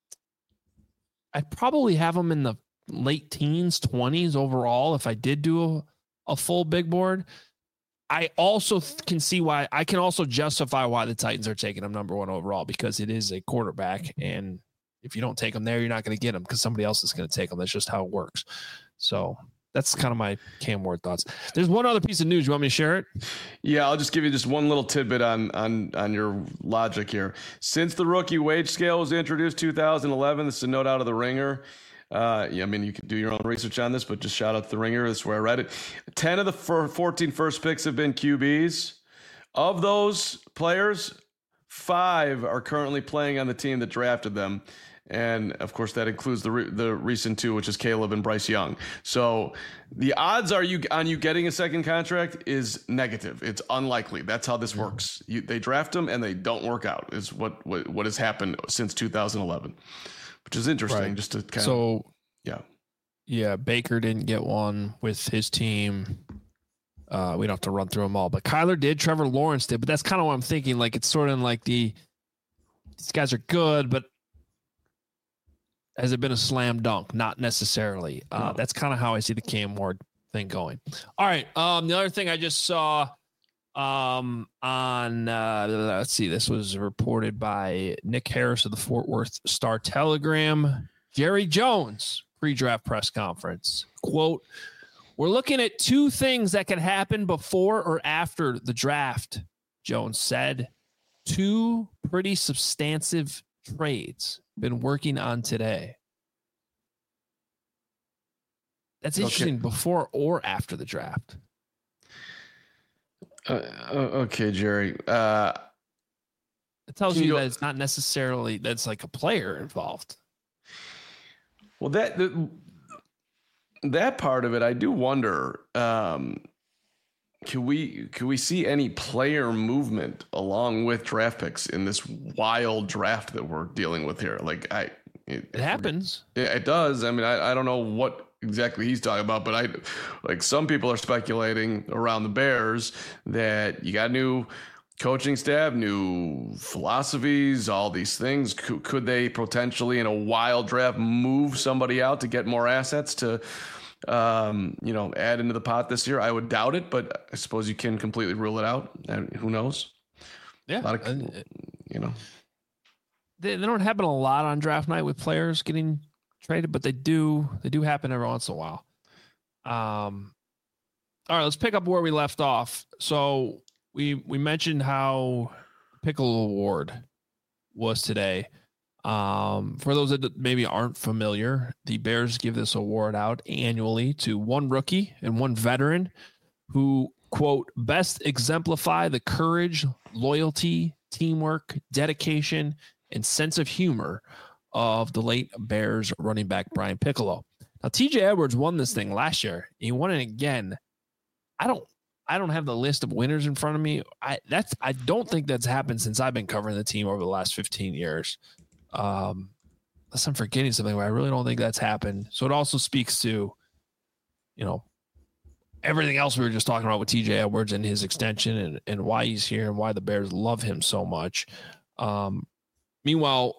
I'd probably have him in the late teens, twenties overall if I did do a, a full big board. I also can see why I can also justify why the Titans are taking him number one overall, because it is a quarterback. And if you don't take him there, you're not going to get him because somebody else is going to take him. That's just how it works. So that's kind of my Cam Ward thoughts. There's one other piece of news. You want me to share it? Yeah, I'll just give you just one little tidbit on on on your logic here. Since the rookie wage scale was introduced two thousand eleven, this is a note out of the Ringer. Uh, yeah, I mean, you can do your own research on this, but just shout out to the Ringer. That's where I read it. ten of the fourteen first picks have been Q Bs. Of those players, five are currently playing on the team that drafted them. And, of course, that includes the re- the recent two, which is Caleb and Bryce Young. So the odds are you on you getting a second contract is negative. It's unlikely. That's how this works. You, they draft them and they don't work out is what, what, what has happened since two thousand eleven. Which is interesting, right. Just to kind so, of, yeah. Yeah, Baker didn't get one with his team. Uh, we don't have to run through them all. But Kyler did, Trevor Lawrence did. But that's kind of what I'm thinking. Like, it's sort of like the, these guys are good, but has it been a slam dunk? Not necessarily. Uh, no. That's kind of how I see the Cam Ward thing going. All right. Um, the other thing I just saw um, on, uh, let's see, this was reported by Nick Harris of the Fort Worth Star Telegram. Jerry Jones, pre-draft press conference. Quote, we're looking at two things that can happen before or after the draft, Jones said. Two pretty substantive trades been working on today. That's interesting. Okay. Before or after the draft. Uh, okay, Jerry. Uh, it tells you, you that it's not necessarily that's like a player involved. Well, that the, that part of it, I do wonder. Um, can we can we see any player movement along with draft picks in this wild draft that we're dealing with here? Like I, it, it happens. It, it does. I mean, I, I don't know what exactly he's talking about, but I like some people are speculating around the Bears that you got new coaching staff, new philosophies, all these things. Could, could they potentially in a wild draft move somebody out to get more assets to, um, you know, add into the pot this year? I would doubt it, but I suppose you can completely rule it out. And who knows? Yeah. A lot of, you know, they, they don't happen a lot on draft night with players getting traded, but they do, they do happen every once in a while. Um, all right, let's pick up where we left off. So, We we mentioned how Piccolo Award was today. Um, for those that maybe aren't familiar, the Bears give this award out annually to one rookie and one veteran who, quote, best exemplify the courage, loyalty, teamwork, dedication, and sense of humor of the late Bears running back Brian Piccolo. Now, T J Edwards won this thing last year. He won it again. I don't I don't have the list of winners in front of me. I that's I don't think that's happened since I've been covering the team over the last fifteen years. Um, unless I'm forgetting something, but I really don't think that's happened. So it also speaks to, you know, everything else we were just talking about with T J Edwards and his extension and, and why he's here and why the Bears love him so much. Um, meanwhile,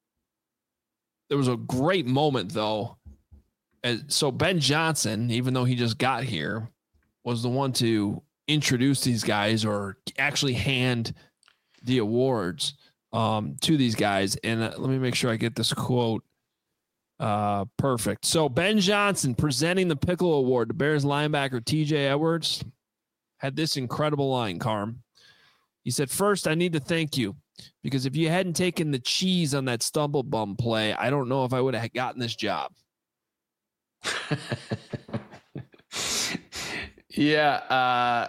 there was a great moment though. As, so Ben Johnson, even though he just got here, was the one to introduce these guys or actually hand the awards um, to these guys. And uh, let me make sure I get this quote uh, perfect. So Ben Johnson presenting the Piccolo Award to Bears linebacker T J Edwards had this incredible line, Carm. He said, first, I need to thank you because if you hadn't taken the cheese on that stumble bum play, I don't know if I would have gotten this job. Yeah, uh,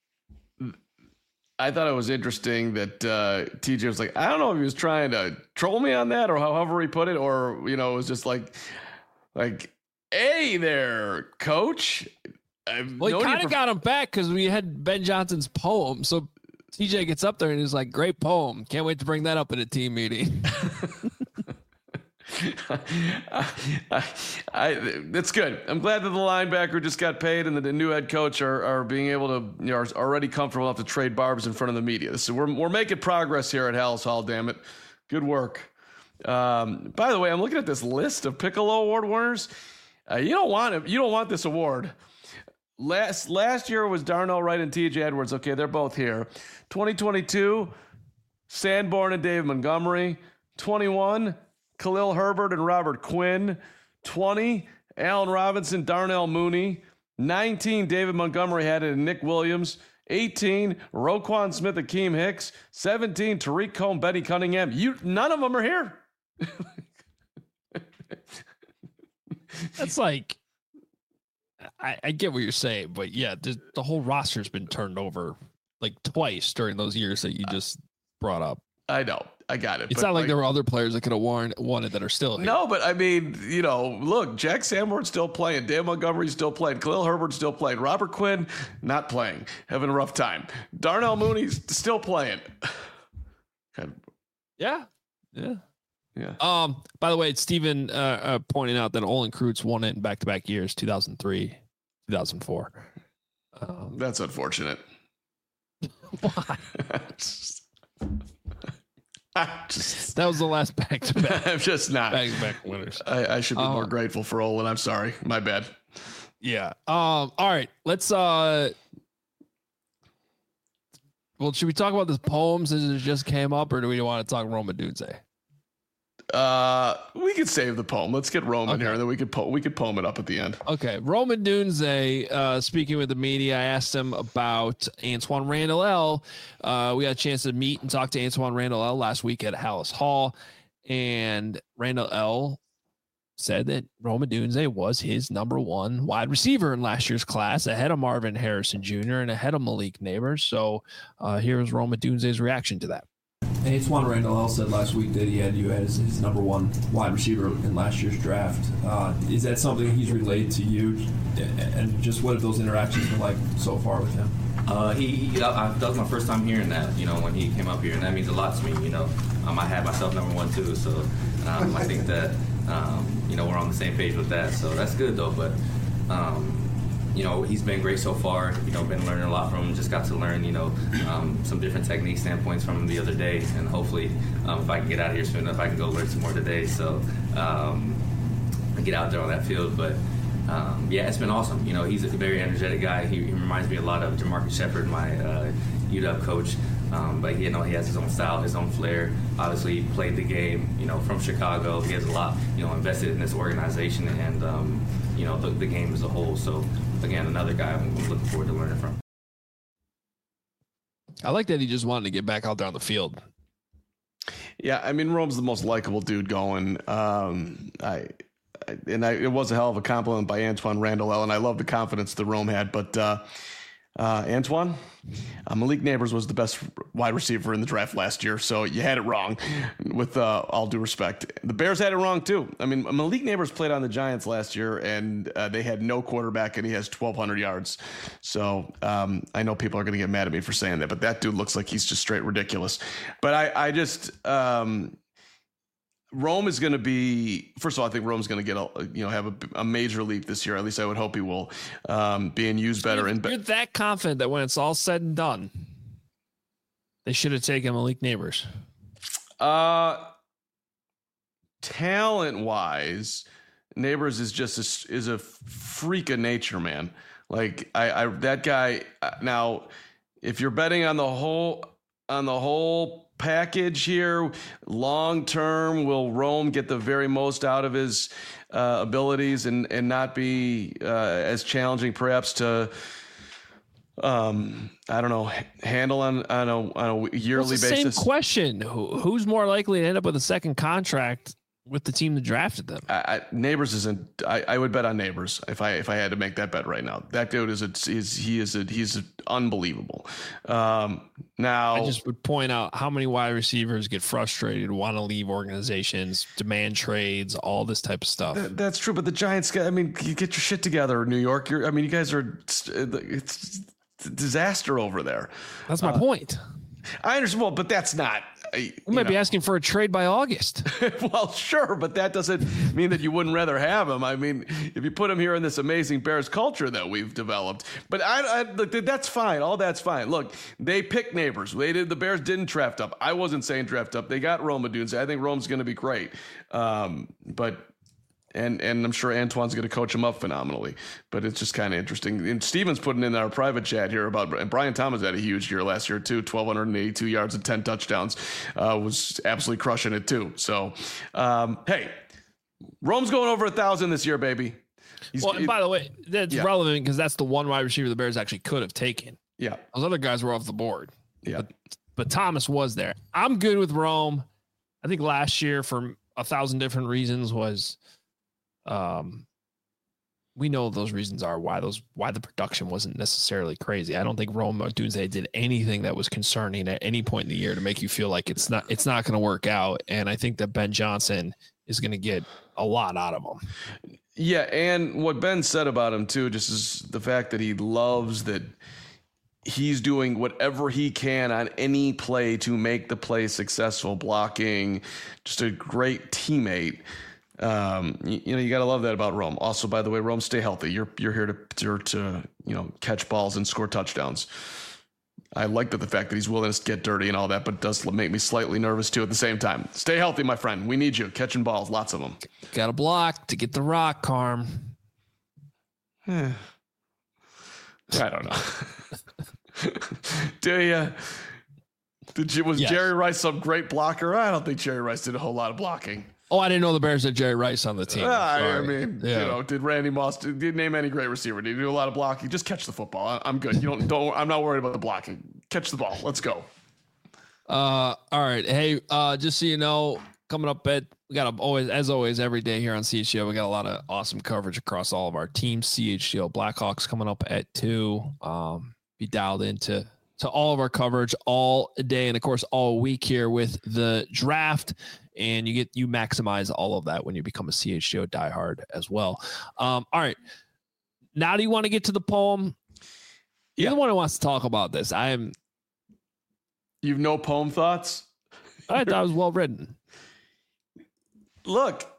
I thought it was interesting that uh, T J was like, I don't know if he was trying to troll me on that or however he put it, or, you know, it was just like, like, hey there, coach. I've well, he kind of for- got him back because we had Ben Johnson's poem. So T J gets up there and he's like, great poem. Can't wait to bring that up at a team meeting. I, I, I, that's good. I'm glad that the linebacker just got paid and that the new head coach are, are being able to, you know, are already comfortable enough to trade barbs in front of the media. So we're we're making progress here at Halas Hall. Damn it, good work. Um, by the way, I'm looking at this list of Piccolo Award winners. Uh, you don't want it. You don't want this award. Last last year was Darnell Wright and T J Edwards. Okay, they're both here. twenty twenty-two, Sanborn and Dave Montgomery. twenty-one. Khalil Herbert and Robert Quinn. twenty, Allen Robinson, Darnell Mooney. nineteen, David Montgomery had it and Nick Williams. eighteen, Roquan Smith, Akeem Hicks. seventeen, Tariq Cohen, Benny Cunningham. You, none of them are here. That's like, I, I get what you're saying, but yeah, the, the whole roster's been turned over like twice during those years that you just brought up. I know. I got it. It's not like, like there were other players that could have won, won it that are still here. No, but I mean, you know, look, Jack Sanborn's still playing. Dan Montgomery's still playing. Khalil Herbert's still playing. Robert Quinn, not playing. Having a rough time. Darnell Mooney's still playing. Yeah. Yeah. Yeah. Um, by the way, Stephen uh, uh, pointing out that Olin Kreutz won it in back-to-back years, two thousand three, two thousand four. Um, That's unfortunate. Why? just, that was the last back-to-back. I'm just not. Back-to-back winners. I, I should be um, more grateful for Olin. I'm sorry. My bad. Yeah. Um. All right. Let's. Uh. Well, should we talk about this poem since it just came up, or do we want to talk Rome Odunze? Uh, we could save the poem. Let's get Rome in Okay. here, and then we could po- we could poem it up at the end. Okay, Rome Odunze, uh, speaking with the media, I asked him about Antoine Randall L. Uh, we got a chance to meet and talk to Antoine Randall L. last week at Halas Hall, and Randall L. said that Rome Odunze was his number one wide receiver in last year's class, ahead of Marvin Harrison Junior and ahead of Malik Neighbors. So uh, here's Rome Odunze's reaction to that. Antoine Randall L. said last week that he had you as his number one wide receiver in last year's draft. Uh, is that something he's relayed to you? And just what have those interactions been like so far with him? Uh, he, he I, that was my first time hearing that, you know, when he came up here, and that means a lot to me, you know. Um, I had myself number one, too, so um, I think that, um, you know, we're on the same page with that, so that's good, though, but, um, you know, he's been great so far, you know, been learning a lot from him, just got to learn, you know, um, some different technique standpoints from him the other day, and hopefully, um, if I can get out of here soon enough, I can go learn some more today, so um, get out there on that field, but Um, yeah, it's been awesome. You know, he's a very energetic guy. He, he reminds me a lot of Jamarcus Shepard, my uh, U W coach. Um, but you know, he has his own style, his own flair. Obviously, he played the game, you know, from Chicago. He has a lot, you know, invested in this organization and um, you know, the, the game as a whole. So again, another guy I'm looking forward to learning from. I like that he just wanted to get back out there on the field. Yeah, I mean, Rome's the most likable dude going. Um, I. And I, it was a hell of a compliment by Antoine Randall, and I love the confidence that Rome had. But uh, uh, Antoine, uh, Malik Neighbors was the best wide receiver in the draft last year, so you had it wrong. With uh, all due respect, the Bears had it wrong too. I mean, Malik Neighbors played on the Giants last year, and uh, they had no quarterback, and he has twelve hundred yards. So um, I know people are going to get mad at me for saying that, but that dude looks like he's just straight ridiculous. But I, I just. Um, Rome is going to be, first of all, I think Rome's going to get a, you know, have a, a major leap this year. At least I would hope he will, um, being used better. You're, you're that confident that when it's all said and done, they should have taken Malik Neighbors. Uh, talent wise, Neighbors is just a, is a freak of nature, man. Like I, I, that guy. Now, if you're betting on the whole, on the whole. package here long term, will Rome get the very most out of his uh, abilities and and not be uh, as challenging perhaps to um I don't know handle on on a, on a yearly well, it's the basis? Same question. Who, who's more likely to end up with a second contract with the team that drafted them? I, I, Neighbors isn't. I, I would bet on Neighbors if I if I had to make that bet right now. That dude is a is he is a he's a, unbelievable. Um, now I just would point out how many wide receivers get frustrated, want to leave organizations, demand trades, all this type of stuff. That, that's true, but the Giants. I mean, you get your shit together, New York. You're. I mean, you guys are. It's a disaster over there. That's my uh, point. I understand. Well, but that's not. We might know. be asking for a trade by August. Well, sure, but that doesn't mean that you wouldn't rather have him. I mean, if you put him here in this amazing Bears culture that we've developed, but I, I look, that's fine. All that's fine. Look, they picked Neighbors. They did. The Bears didn't draft up. I wasn't saying draft up. They got Rome Odunze. I think Rome's going to be great. Um, but. And and I'm sure Antoine's going to coach him up phenomenally, but it's just kind of interesting. And Steven's putting in our private chat here about, and Brian Thomas had a huge year last year too, twelve eighty-two yards and ten touchdowns, uh, was absolutely crushing it too. So, um, hey, Rome's going over a thousand this year, baby. He's, well, and by the way, that's yeah. relevant because that's the one wide receiver the Bears actually could have taken. Yeah, those other guys were off the board. Yeah, but, but Thomas was there. I'm good with Rome. I think last year, for a thousand different reasons, was. Um, we know those reasons are why those why the production wasn't necessarily crazy. I don't think Rome Odunze did anything that was concerning at any point in the year to make you feel like it's not it's not going to work out. And I think that Ben Johnson is going to get a lot out of him. Yeah, and what Ben said about him too, just is the fact that he loves that he's doing whatever he can on any play to make the play successful, blocking, just a great teammate. Um, you, you know, you got to love that about Rome. Also, by the way, Rome, stay healthy. You're you're here to, to to you know catch balls and score touchdowns. I like that the fact that he's willing to get dirty and all that, but it does make me slightly nervous too at the same time. Stay healthy, my friend. We need you catching balls, lots of them. Got to block to get the rock, Carm. I don't know. Do you? Did you? Was yes. Jerry Rice some great blocker? I don't think Jerry Rice did a whole lot of blocking. Oh, I didn't know the Bears had Jerry Rice on the team. Uh, I mean, yeah. you know, did Randy Moss did, did name any great receiver? Did he do a lot of blocking? Just catch the football. I, I'm good. You don't don't. I'm not worried about the blocking. Catch the ball. Let's go. Uh, all right. Hey, uh, just so you know, coming up at we got a, always as always every day here on C H G O. We got a lot of awesome coverage across all of our teams. C H G O Blackhawks coming up at two. Um, be dialed into. to all of our coverage all day and of course all week here with the draft, and you get you maximize all of that when you become a C H G O diehard as well. Um, all right, now do you want to get to the poem? You're the one who wants to talk about this. I am. You've no poem thoughts? I thought it was well written. Look,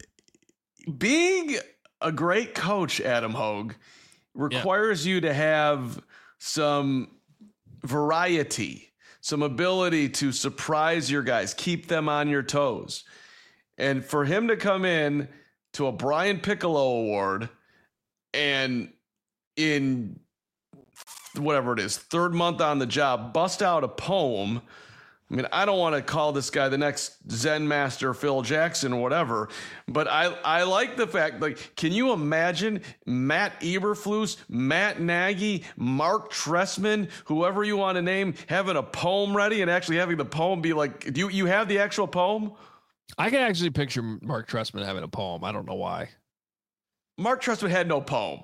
being a great coach, Adam Hogue, requires yeah. you to have some variety, some ability to surprise your guys, keep them on your toes. And for him to come in to a Brian Piccolo award and in whatever it is, third month on the job, bust out a poem. I mean, I don't want to call this guy the next Zen master Phil Jackson or whatever, but I I like the fact, like, can you imagine Matt Eberflus, Matt Nagy, Mark Trestman, whoever you want to name, having a poem ready and actually having the poem be like, do you, you have the actual poem? I can actually picture Mark Trestman having a poem. I don't know why. Mark Trestman had no poem.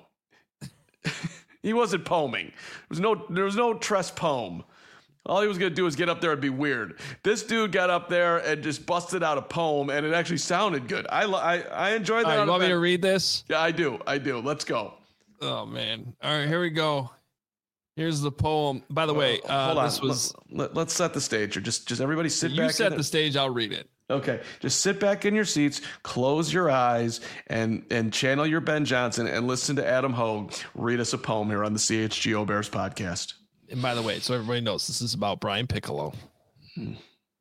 He wasn't poeming. There was no, there was no Trest poem. All he was going to do was get up there and be weird. This dude got up there and just busted out a poem, and it actually sounded good. I I, I enjoyed that. All right, you want me to read this? Yeah, I do. I do. Let's go. Oh, man. All right, here we go. Here's the poem. By the way, uh, hold on. this was. Let, let's set the stage. Or just, just everybody sit you back. You set the stage. I'll read it. Okay, just sit back in your seats, close your eyes, and and channel your Ben Johnson and listen to Adam Hogue read us a poem here on the C H G O Bears podcast. And by the way, so everybody knows, this is about Brian Piccolo. Hmm.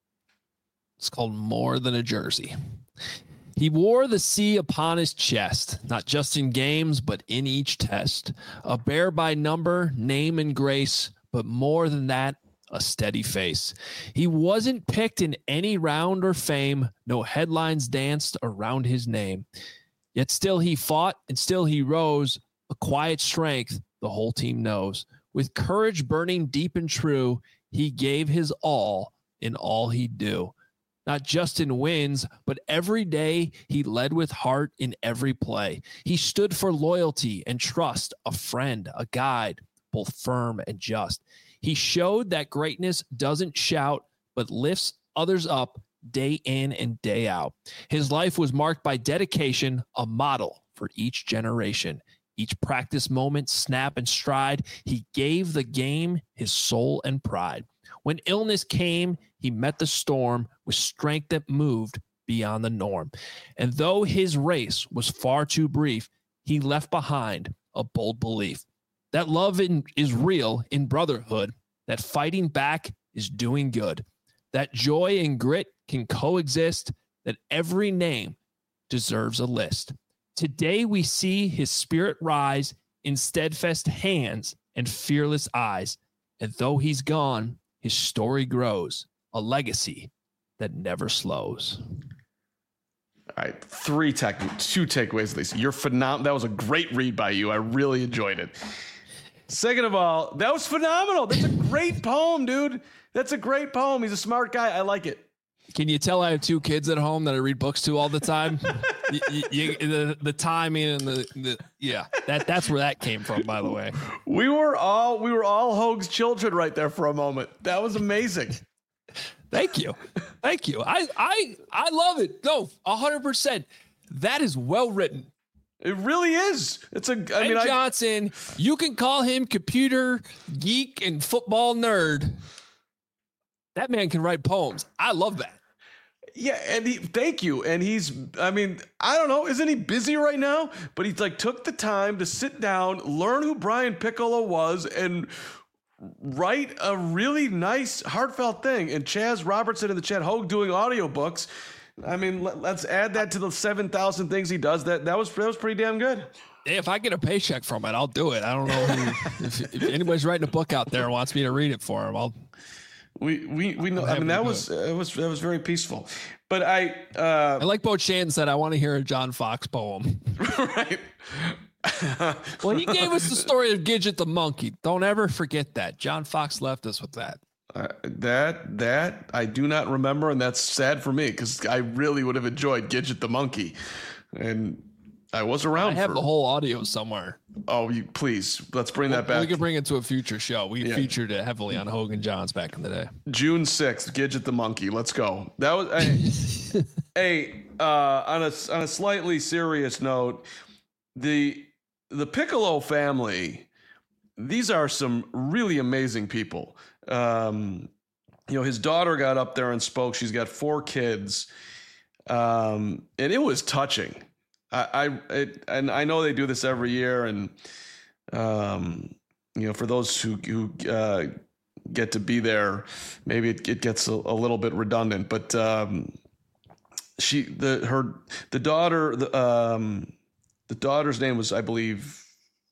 It's called More Than a Jersey. He wore the sea upon his chest, not just in games, but in each test. A bear by number, name, and grace, but more than that, a steady face. He wasn't picked in any round or fame. No headlines danced around his name. Yet still he fought and still he rose. A quiet strength the whole team knows. With courage burning deep and true, he gave his all in all he'd do. Not just in wins, but every day he led with heart in every play. He stood for loyalty and trust, a friend, a guide, both firm and just. He showed that greatness doesn't shout, but lifts others up day in and day out. His life was marked by dedication, a model for each generation. Each practice moment, snap and stride, he gave the game his soul and pride. When illness came, he met the storm with strength that moved beyond the norm. And though his race was far too brief, he left behind a bold belief that love in, is real in brotherhood, that fighting back is doing good, that joy and grit can coexist, that every name deserves a list. Today we see his spirit rise in steadfast hands and fearless eyes. And though he's gone, his story grows, a legacy that never slows. All right, three tech, two takeaways, Lisa. You're phenomenal. That was a great read by you. I really enjoyed it. Second of all, that was phenomenal. That's a great poem, dude. That's a great poem. He's a smart guy. I like it. Can you tell I have two kids at home that I read books to all the time? you, you, the the timing and the, the yeah, that that's where that came from. By the way, we were all we were all Hogue's children right there for a moment. That was amazing. Thank you, thank you. I I I love it. No, a hundred percent. That is well written. It really is. It's a. I Ben mean, Johnson. I, you can call him computer geek and football nerd. That man can write poems. I love that. Yeah, and he, thank you. And he's, I mean, I don't know, isn't he busy right now? But he's like took the time to sit down, learn who Brian Piccolo was, and write a really nice, heartfelt thing. And Chaz Robertson in the chat, Hogue doing audiobooks. I mean, let, let's add that to the seven thousand things he does. That that was that was pretty damn good. If I get a paycheck from it, I'll do it. I don't know who, if, if anybody's writing a book out there and wants me to read it for him, I'll. We we we know. I mean, that was it was that was very peaceful. But I uh, I like Bo Chan said I want to hear a John Fox poem. Right. Well, he gave us the story of Gidget the monkey. Don't ever forget that. John Fox left us with that. Uh, that that I do not remember, and that's sad for me because I really would have enjoyed Gidget the monkey, and I was around. I have for, the whole audio somewhere. Oh, you please let's bring that back. We can bring it to a future show. We yeah. featured it heavily on Hogan Johns back in the day. June sixth, Gidget the monkey. Let's go. That was hey, hey uh, on a on a slightly serious note, the the Piccolo family. these are some really amazing people. Um, you know, his daughter got up there and spoke. She's got four kids. Um, and it was touching. I, I it, and I know they do this every year. And, um, you know, for those who, who uh, get to be there, maybe it, it gets a, a little bit redundant, but um, she, the, her, the daughter, the, um, the daughter's name was, I believe,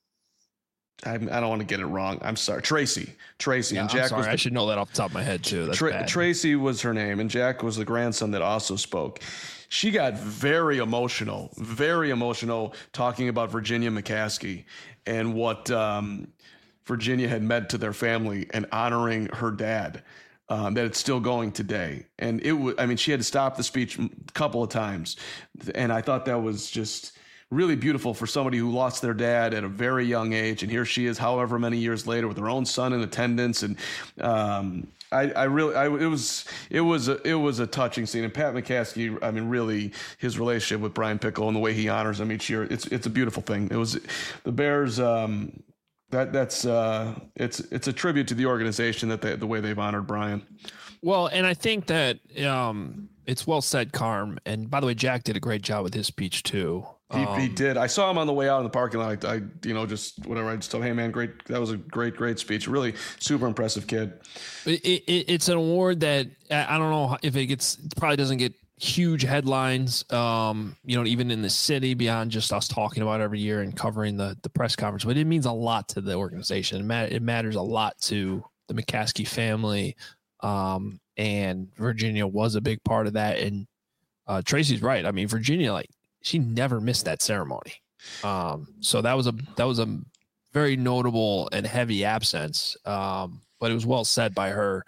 I, I don't want to get it wrong. I'm sorry. Tracy. Tracy. Yeah, and Jack I'm sorry. was the, I should know that off the top of my head, too. That's Tra- bad. Tracy was her name, and Jack was the grandson that also spoke. She got very emotional, very emotional, talking about Virginia McCaskey and what um, Virginia had meant to their family and honoring her dad. Um, that it's still going today. And it was, I mean, she had to stop the speech a couple of times. And I thought that was just really beautiful for somebody who lost their dad at a very young age. And here she is, however many years later, with her own son in attendance. And um, I, I really, I, it was, it was, a, it was a touching scene. And Pat McCaskey, I mean, really, his relationship with Brian Pickle and the way he honors him each year, it's, it's a beautiful thing. It was the Bears. Um, that that's, uh, it's, it's a tribute to the organization that they, the way they've honored Brian. Well, and I think that um, it's well said, Carm. And by the way, Jack did a great job with his speech too. He, um, he did. I saw him on the way out in the parking lot. I, I, you know, just whatever. I just told him, hey man, great. That was a great, great speech. Really super impressive kid. It, it, it's an award that I don't know if it gets, it probably doesn't get huge headlines, um, you know, even in the city beyond just us talking about it every year and covering the, the press conference, but it means a lot to the organization. It, mat- it matters a lot to the McCaskey family. Um, and Virginia was a big part of that. And uh, Tracy's right. I mean, Virginia, like, she never missed that ceremony. Um, so that was a that was a very notable and heavy absence. Um, but it was well said by her.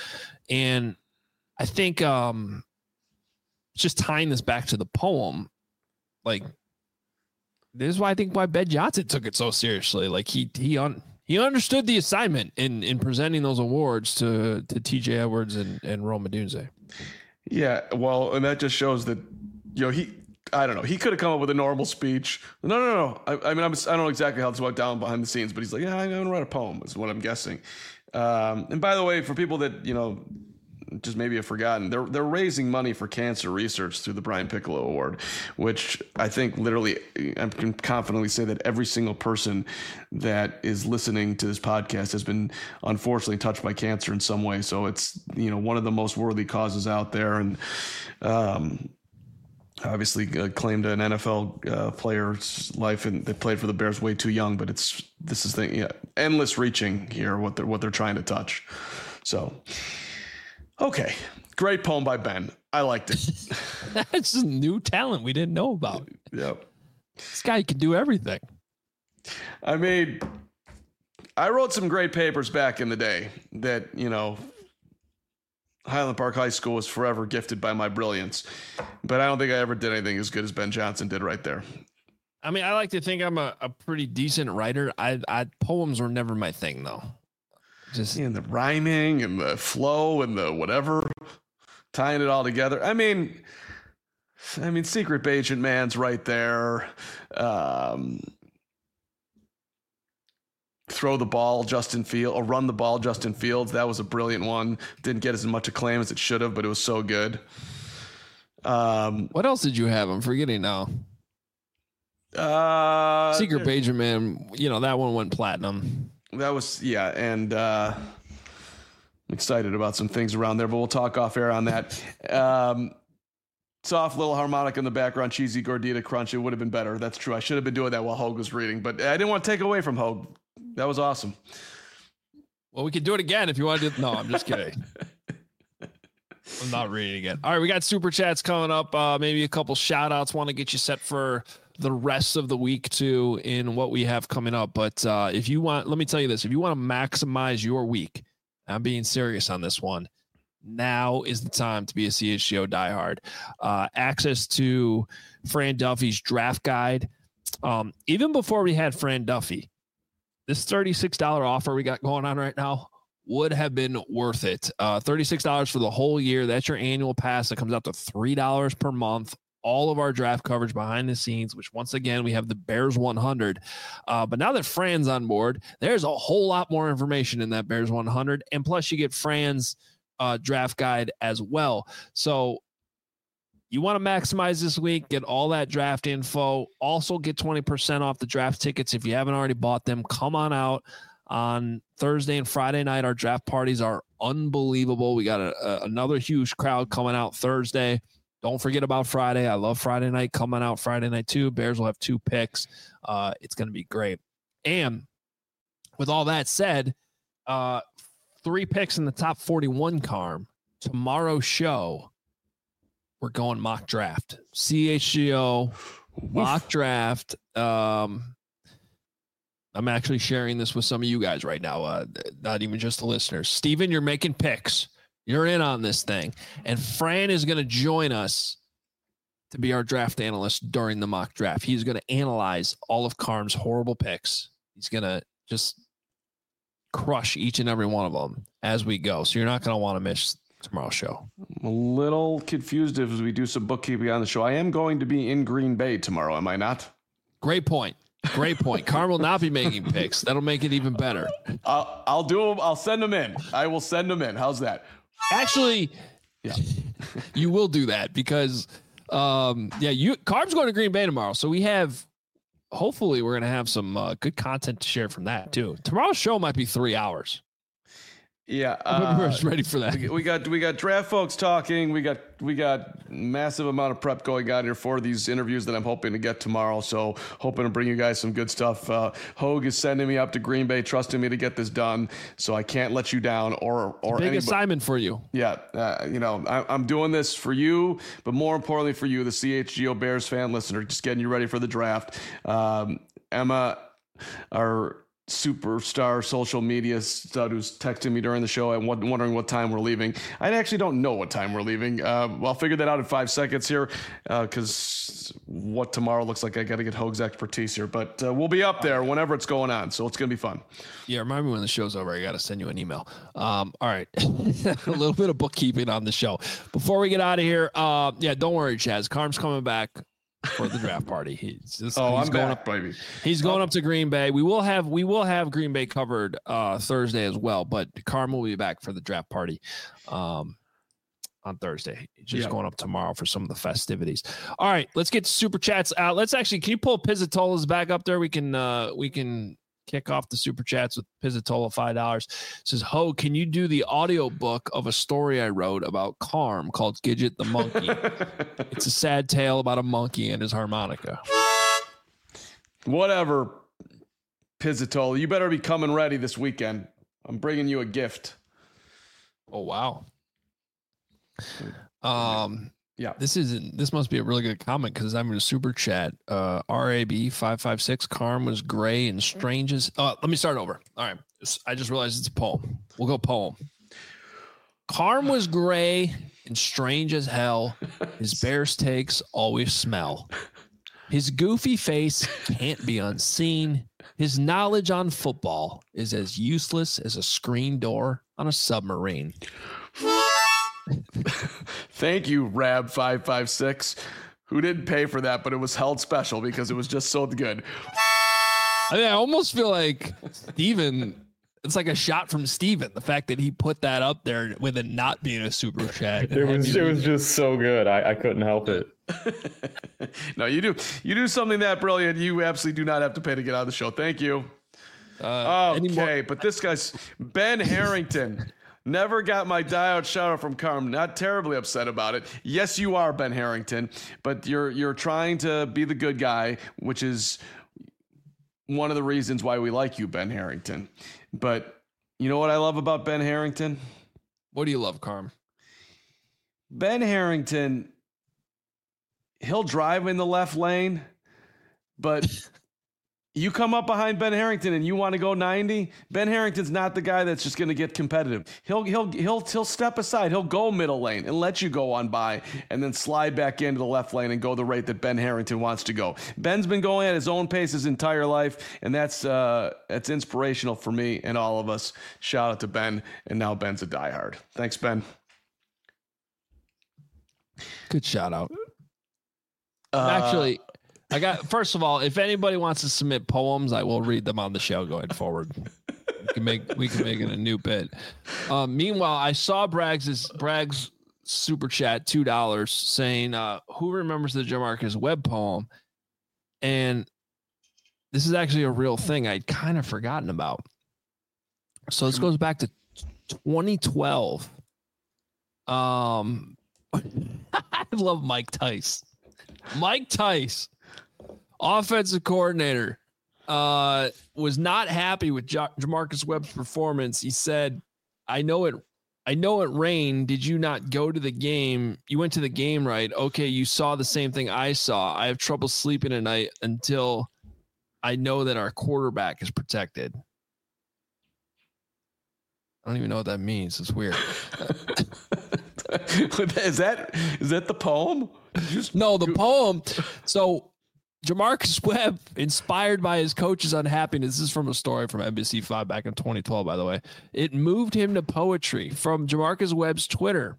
And I think um, just tying this back to the poem, like this is why I think why Ben Johnson took it so seriously. Like he he un, he understood the assignment in in presenting those awards to to T J Edwards and and Rome Odunze. Yeah, well, and that just shows that, you know, he. I don't know. He could have come up with a normal speech. No, no, no. I, I mean, I'm, I don't know exactly how this went down behind the scenes, but he's like, yeah, I'm going to write a poem is what I'm guessing. Um, and by the way, for people that, you know, just maybe have forgotten, they're, they're raising money for cancer research through the Brian Piccolo Award, which I think literally, I can confidently say that every single person that is listening to this podcast has been unfortunately touched by cancer in some way. So it's, you know, one of the most worthy causes out there. And, um, obviously uh, claimed an N F L uh, player's life, and they played for the Bears way too young. But it's this is the yeah, endless reaching here. What they're what they're trying to touch. So, okay, great poem by Ben. I liked it. That's a new talent we didn't know about. Yep, this guy can do everything. I mean, I wrote some great papers back in the day that, you know, Highland Park High School was forever gifted by my brilliance, but I don't think I ever did anything as good as Ben Johnson did right there. I mean, I like to think I'm a, a pretty decent writer. I, I poems were never my thing though. Just and the rhyming and the flow and the whatever, tying it all together. I mean, I mean, Secret Agent Man's right there. Um, Throw the ball, Justin Fields, or run the ball, Justin Fields. That was a brilliant one. Didn't get as much acclaim as it should have, but it was so good. Um, what else did you have? I'm forgetting now. Uh, Secret Agent Man, you know, that one went platinum. That was, yeah, and uh, I'm excited about some things around there, but we'll talk off air on that. Um, soft little harmonic in the background, cheesy gordita crunch. It would have been better. That's true. I should have been doing that while Hogue was reading, but I didn't want to take away from Hogue. That was awesome. Well, we could do it again if you want to. Do, no, I'm just kidding. I'm not reading again. All right, we got super chats coming up. Uh, maybe a couple shout outs. Want to get you set for the rest of the week too in what we have coming up. But uh, if you want, let me tell you this: if you want to maximize your week, I'm being serious on this one. Now is the time to be a C H G O diehard. Uh, access to Fran Duffy's draft guide. Um, even before we had Fran Duffy, this thirty-six dollars offer we got going on right now would have been worth it. Uh, thirty-six dollars for the whole year. That's your annual pass. That comes out to three dollars per month. all of our draft coverage behind the scenes, which once again, we have the Bears one hundred. Uh, but now that Fran's on board, there's a whole lot more information in that Bears one hundred. And plus you get Fran's uh, draft guide as well. So you want to maximize this week, get all that draft info, also get twenty percent off the draft tickets. If you haven't already bought them, come on out on Thursday and Friday night. Our draft parties are unbelievable. We got a, a, another huge crowd coming out Thursday. Don't forget about Friday. I love Friday night coming out Friday night too. Bears will have two picks. Uh, it's going to be great. And with all that said, uh, three picks in the top forty-one, Carm. Tomorrow's show, we're going mock draft. C H G O mock draft. Um, I'm actually sharing this with some of you guys right now, uh, not even just the listeners. Steven, you're making picks. You're in on this thing. And Fran is going to join us to be our draft analyst during the mock draft. He's going to analyze all of Carm's horrible picks. He's going to just crush each and every one of them as we go. So you're not going to want to miss tomorrow's show. I'm a little confused as we do some bookkeeping on the show. I am going to be in Green Bay tomorrow, am I not? Great point. Great point. Carm will not be making picks. That'll make it even better. I'll, I'll do them. I'll send them in. I will send them in. How's that? Actually, yeah, you will do that because, um, yeah, you Carm's going to Green Bay tomorrow. So we have, hopefully we're going to have some uh, good content to share from that too. Tomorrow's show might be three hours. Yeah, uh, we're ready for that. We got we got draft folks talking. We got we got massive amount of prep going on here for these interviews that I'm hoping to get tomorrow. So hoping to bring you guys some good stuff. Uh, Hogue is sending me up to Green Bay, trusting me to get this done. So I can't let you down or or big anybody. assignment for you. Yeah, uh, you know I, I'm doing this for you, but more importantly for you, the C H G O Bears fan listener, just getting you ready for the draft. Um, Emma, our superstar social media stud who's texting me during the show and wondering what time we're leaving. I actually don't know what time we're leaving. Uh, I'll figure that out in five seconds here because uh, what tomorrow looks like, I got to get Hogue's expertise here. But uh, we'll be up there whenever it's going on, so it's going to be fun. Yeah, remind me when the show's over. I got to send you an email. Um, all right. A little bit of bookkeeping on the show. Before we get out of here, uh, yeah, don't worry, Chaz. Carm's coming back for the draft party. He's just, oh, he's I'm going back, up, baby. He's going oh. up to Green Bay. We will have we will have Green Bay covered uh, Thursday as well, but Carm will be back for the draft party um, on Thursday. Just yeah. going up tomorrow for some of the festivities. All right, let's get super chats out. Let's actually, can you pull Pizzatola's back up there? We can uh, we can kick off the super chats with Pizzatola five dollars. It says, Ho, can you do the audio book of a story I wrote about Carm called Gidget the Monkey? It's a sad tale about a monkey and his harmonica. Whatever, Pizzatola. You better be coming ready this weekend. I'm bringing you a gift. Oh, wow. Um, yeah, this is this must be a really good comment because I'm in a super chat. Uh, R A B five five six. Carm was gray and strange as. Oh, let me start over. All right, I just realized it's a poem. We'll go poem. Carm was gray and strange as hell. His Bears takes always smell. His goofy face can't be unseen. His knowledge on football is as useless as a screen door on a submarine. Thank you, Rab five five six, who didn't pay for that, but it was held special because it was just so good. I mean, I almost feel like Steven, it's like a shot from Steven, the fact that he put that up there with it not being a super chat. It was it was just so good. I, I couldn't help it. No, you do. You do something that brilliant. You absolutely do not have to pay to get on the show. Thank you. Uh, okay, but this guy's Ben Harrington. Never got my die-out shout-out from Carm. Not terribly upset about it. Yes, you are, Ben Harrington, but you're you're trying to be the good guy, which is one of the reasons why we like you, Ben Harrington. But you know what I love about Ben Harrington? What do you love, Carm? Ben Harrington, he'll drive in the left lane, but you come up behind Ben Harrington and you want to go ninety. Ben Harrington's not the guy that's just going to get competitive. He'll he'll he'll he'll step aside. He'll go middle lane and let you go on by, and then slide back into the left lane and go the rate that Ben Harrington wants to go. Ben's been going at his own pace his entire life, and that's uh, that's inspirational for me and all of us. Shout out to Ben, and now Ben's a diehard. Thanks, Ben. Good shout out. Uh, Actually, I got. First of all, if anybody wants to submit poems, I will read them on the show going forward. We can make we can make it a new bit. Um, meanwhile, I saw Bragg's Bragg's super chat two dollars saying, uh, "Who remembers the Jamarcus Webb poem?" And this is actually a real thing I'd kind of forgotten about. So this goes back to twenty twelve. Um, I love Mike Tice. Mike Tice, offensive coordinator, uh, was not happy with J- Jamarcus Webb's performance. He said, "I know it. I know it rained. Did you not go to the game? You went to the game, right? Okay, you saw the same thing I saw. I have trouble sleeping at night until I know that our quarterback is protected." I don't even know what that means. It's weird. is that is that the poem? Just, no, the poem. So Jamarcus Webb, inspired by his coach's unhappiness, this is from a story from N B C five back in twenty twelve, by the way. It moved him to poetry from Jamarcus Webb's Twitter.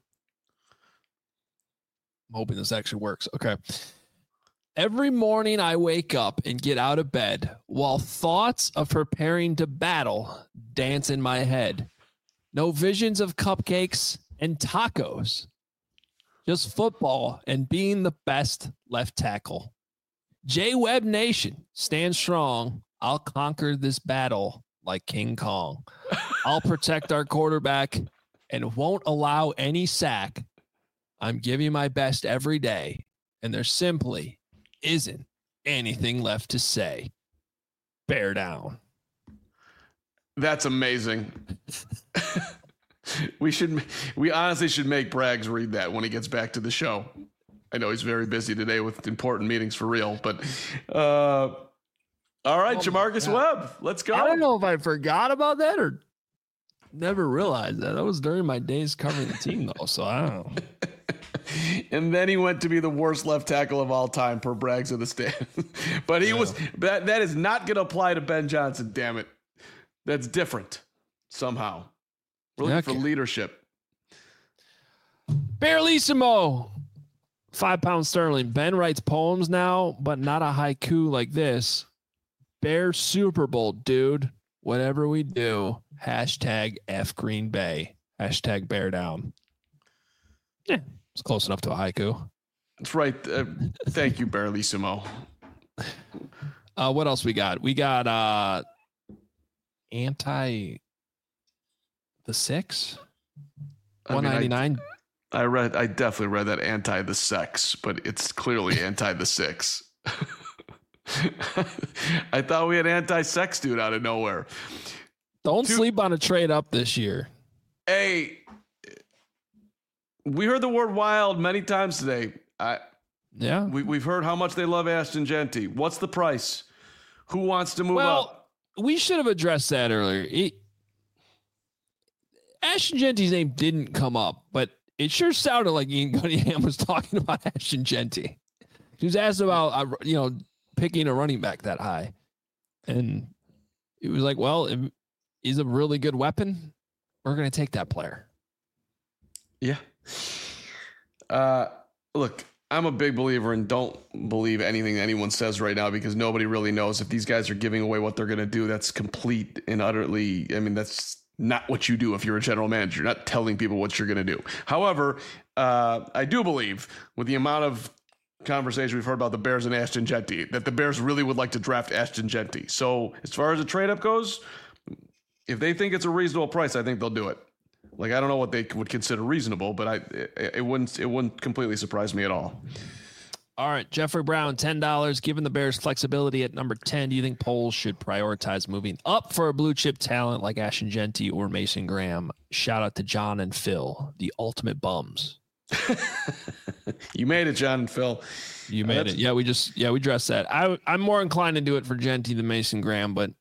I'm hoping this actually works. Okay. Every morning I wake up and get out of bed while thoughts of preparing to battle dance in my head. No visions of cupcakes and tacos. Just football and being the best left tackle. J-Web Nation, stand strong. I'll conquer this battle like King Kong. I'll protect our quarterback and won't allow any sack. I'm giving my best every day, and there simply isn't anything left to say. Bear down. That's amazing. we should, we honestly should make Braggs read that when he gets back to the show. I know he's very busy today with important meetings for real, but uh, all right, oh Jamarcus Webb, let's go. I don't know if I forgot about that or never realized that. That was during my days covering the team, though, so I don't know. And then he went to be the worst left tackle of all time per Braggs of the stand. But he yeah. was that that is not going to apply to Ben Johnson. Damn it, that's different somehow. We're looking okay. for leadership. Barelissimo, five pound sterling. Ben writes poems now, but not a haiku like this. Bear Super Bowl, dude. Whatever we do, hashtag F Green Bay. Hashtag bear down. Yeah, it's close enough to a haiku. That's right. Uh, thank you, Barelissimo. Uh, what else we got? We got uh, anti the six. one ninety-nine. I, I read. I definitely read that anti the sex, but it's clearly anti the six. I thought we had anti-sex dude out of nowhere. Don't Dude, sleep on a trade up this year. Hey, we heard the word wild many times today. I, yeah, we, we've heard how much they love Ashton Jeanty. What's the price? Who wants to move well, up? We should have addressed that earlier. It, Ashton Jeanty's name didn't come up, but it sure sounded like Ian Cunningham was talking about Ashton Jeanty. He was asked about, uh, you know, picking a running back that high. And it was like, well, if he's a really good weapon, we're going to take that player. Yeah. Uh, look, I'm a big believer in don't believe anything anyone says right now because nobody really knows if these guys are giving away what they're going to do. That's complete and utterly, I mean, that's not what you do if you're a general manager. You're not telling people what you're going to do. However, uh, I do believe with the amount of conversation we've heard about the Bears and Ashton Jeanty, that the Bears really would like to draft Ashton Jeanty. So as far as the trade up goes, if they think it's a reasonable price, I think they'll do it. Like, I don't know what they would consider reasonable, but I it, it wouldn't it wouldn't completely surprise me at all. All right, Jeffrey Brown, ten dollars. Given the Bears' flexibility at number ten, do you think Poles should prioritize moving up for a blue chip talent like Ashton Jeanty or Mason Graham? Shout out to John and Phil, the ultimate bums. You made it, John and Phil. You made That's- it. Yeah, we just yeah we dressed that. I I'm more inclined to do it for Jeanty than Mason Graham, but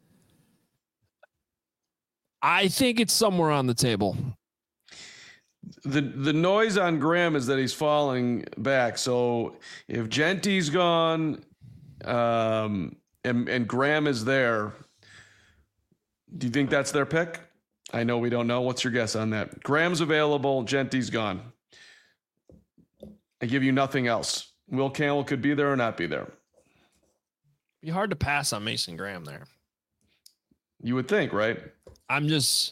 I think it's somewhere on the table. The the noise on Graham is that he's falling back. So if Jeanty's gone, um, and and Graham is there, do you think that's their pick? I know we don't know. What's your guess on that? Graham's available. Jeanty's gone. I give you nothing else. Will Campbell could be there or not be there. Be hard to pass on Mason Graham there. You would think, right? I'm just.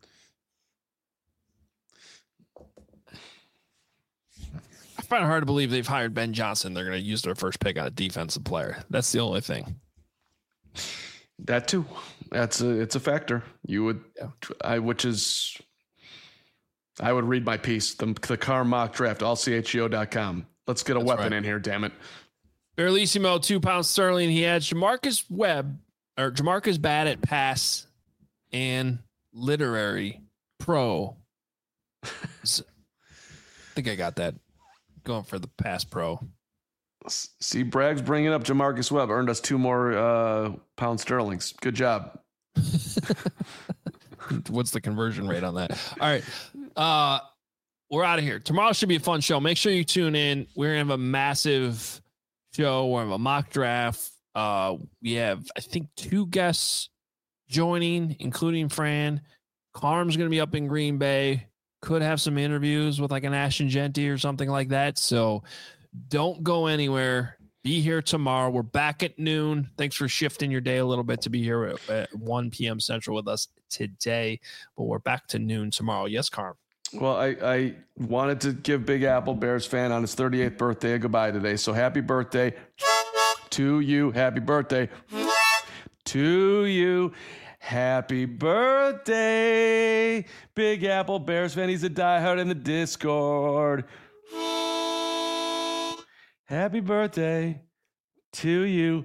I find it hard to believe they've hired Ben Johnson. They're going to use their first pick on a defensive player. That's the only thing. That too. That's a, it's a factor. You would, yeah. I, which is, I would read my piece, the, the Car Mock Draft, all C H G O dot com. Let's get a That's weapon right. in here, damn it. Barlissimo, two pounds sterling. He had Jamarcus Webb, or Jamarcus bad at pass and literary pro. I think I got that. Going for the pass pro. See, Bragg's bringing up Jamarcus Webb. Earned us two more uh, pound sterlings. Good job. What's the conversion rate on that? All right. Uh, we're out of here. Tomorrow should be a fun show. Make sure you tune in. We're going to have a massive show. We're going to have a mock draft. Uh, we have, I think, two guests joining, including Fran. Carm's going to be up in Green Bay. Could have some interviews with like an Ashton Genty or something like that. So don't go anywhere. Be here tomorrow. We're back at noon. Thanks for shifting your day a little bit to be here at, at one p.m. Central with us today. But we're back to noon tomorrow. Yes, Carm. Well, I, I wanted to give Big Apple Bears fan on his thirty-eighth birthday a goodbye today. So happy birthday to you. Happy birthday to you. Happy birthday, Big Apple Bears fan. He's a diehard in the Discord. Happy birthday to you.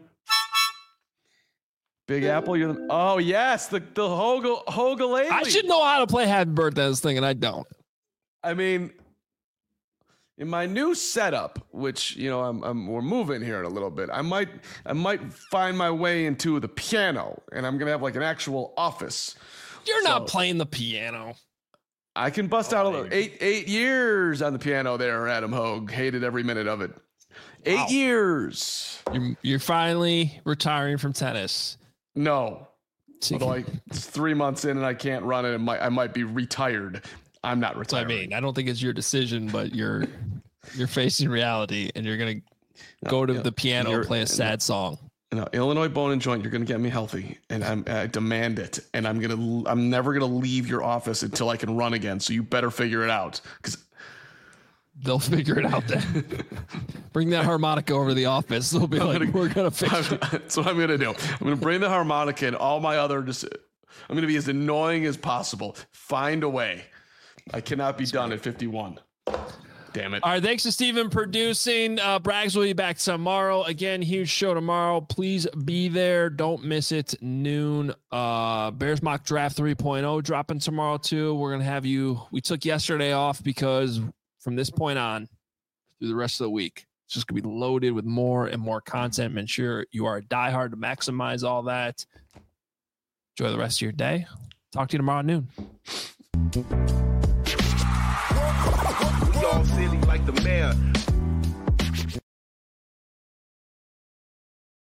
Big Apple, you're the... Oh, yes, the, the Hoga, Hoga lady. I should know how to play happy birthday this thing, and I don't. I mean, in my new setup, which, you know, I'm, I'm we're moving here in a little bit, I might I might find my way into the piano, and I'm going to have like an actual office. You're so, not playing the piano. I can bust oh, out a little. Eight, eight years on the piano there, Adam Hogue. Hated every minute of it. Eight wow. years. You're, you're finally retiring from tennis. No. Although I, it's three months in and I can't run it, and might, I might be retired. I'm not retired. I mean, I don't think it's your decision, but you're you're facing reality, and you're gonna no, go to yeah, the piano and play a sad no, song. No, Illinois Bone and Joint, you're gonna get me healthy, and I'm, I demand it. And I'm gonna, I'm never gonna leave your office until I can run again. So you better figure it out, because they'll figure it out then. Bring that harmonica over to the office. They'll be I'm like, gonna, we're gonna fix it. That's what I'm gonna do. I'm gonna bring the harmonica and all my other. Just, I'm gonna be as annoying as possible. Find a way. I cannot be done at fifty-one. Damn it. All right. Thanks to Steven producing. Uh, Braggs will be back tomorrow. Again, huge show tomorrow. Please be there. Don't miss it. Noon. Uh, Bears Mock Draft three point oh dropping tomorrow, too. We're going to have you. We took yesterday off because from this point on through the rest of the week, it's just going to be loaded with more and more content. Make sure you are a diehard to maximize all that. Enjoy the rest of your day. Talk to you tomorrow at noon. We all silly like the mayor.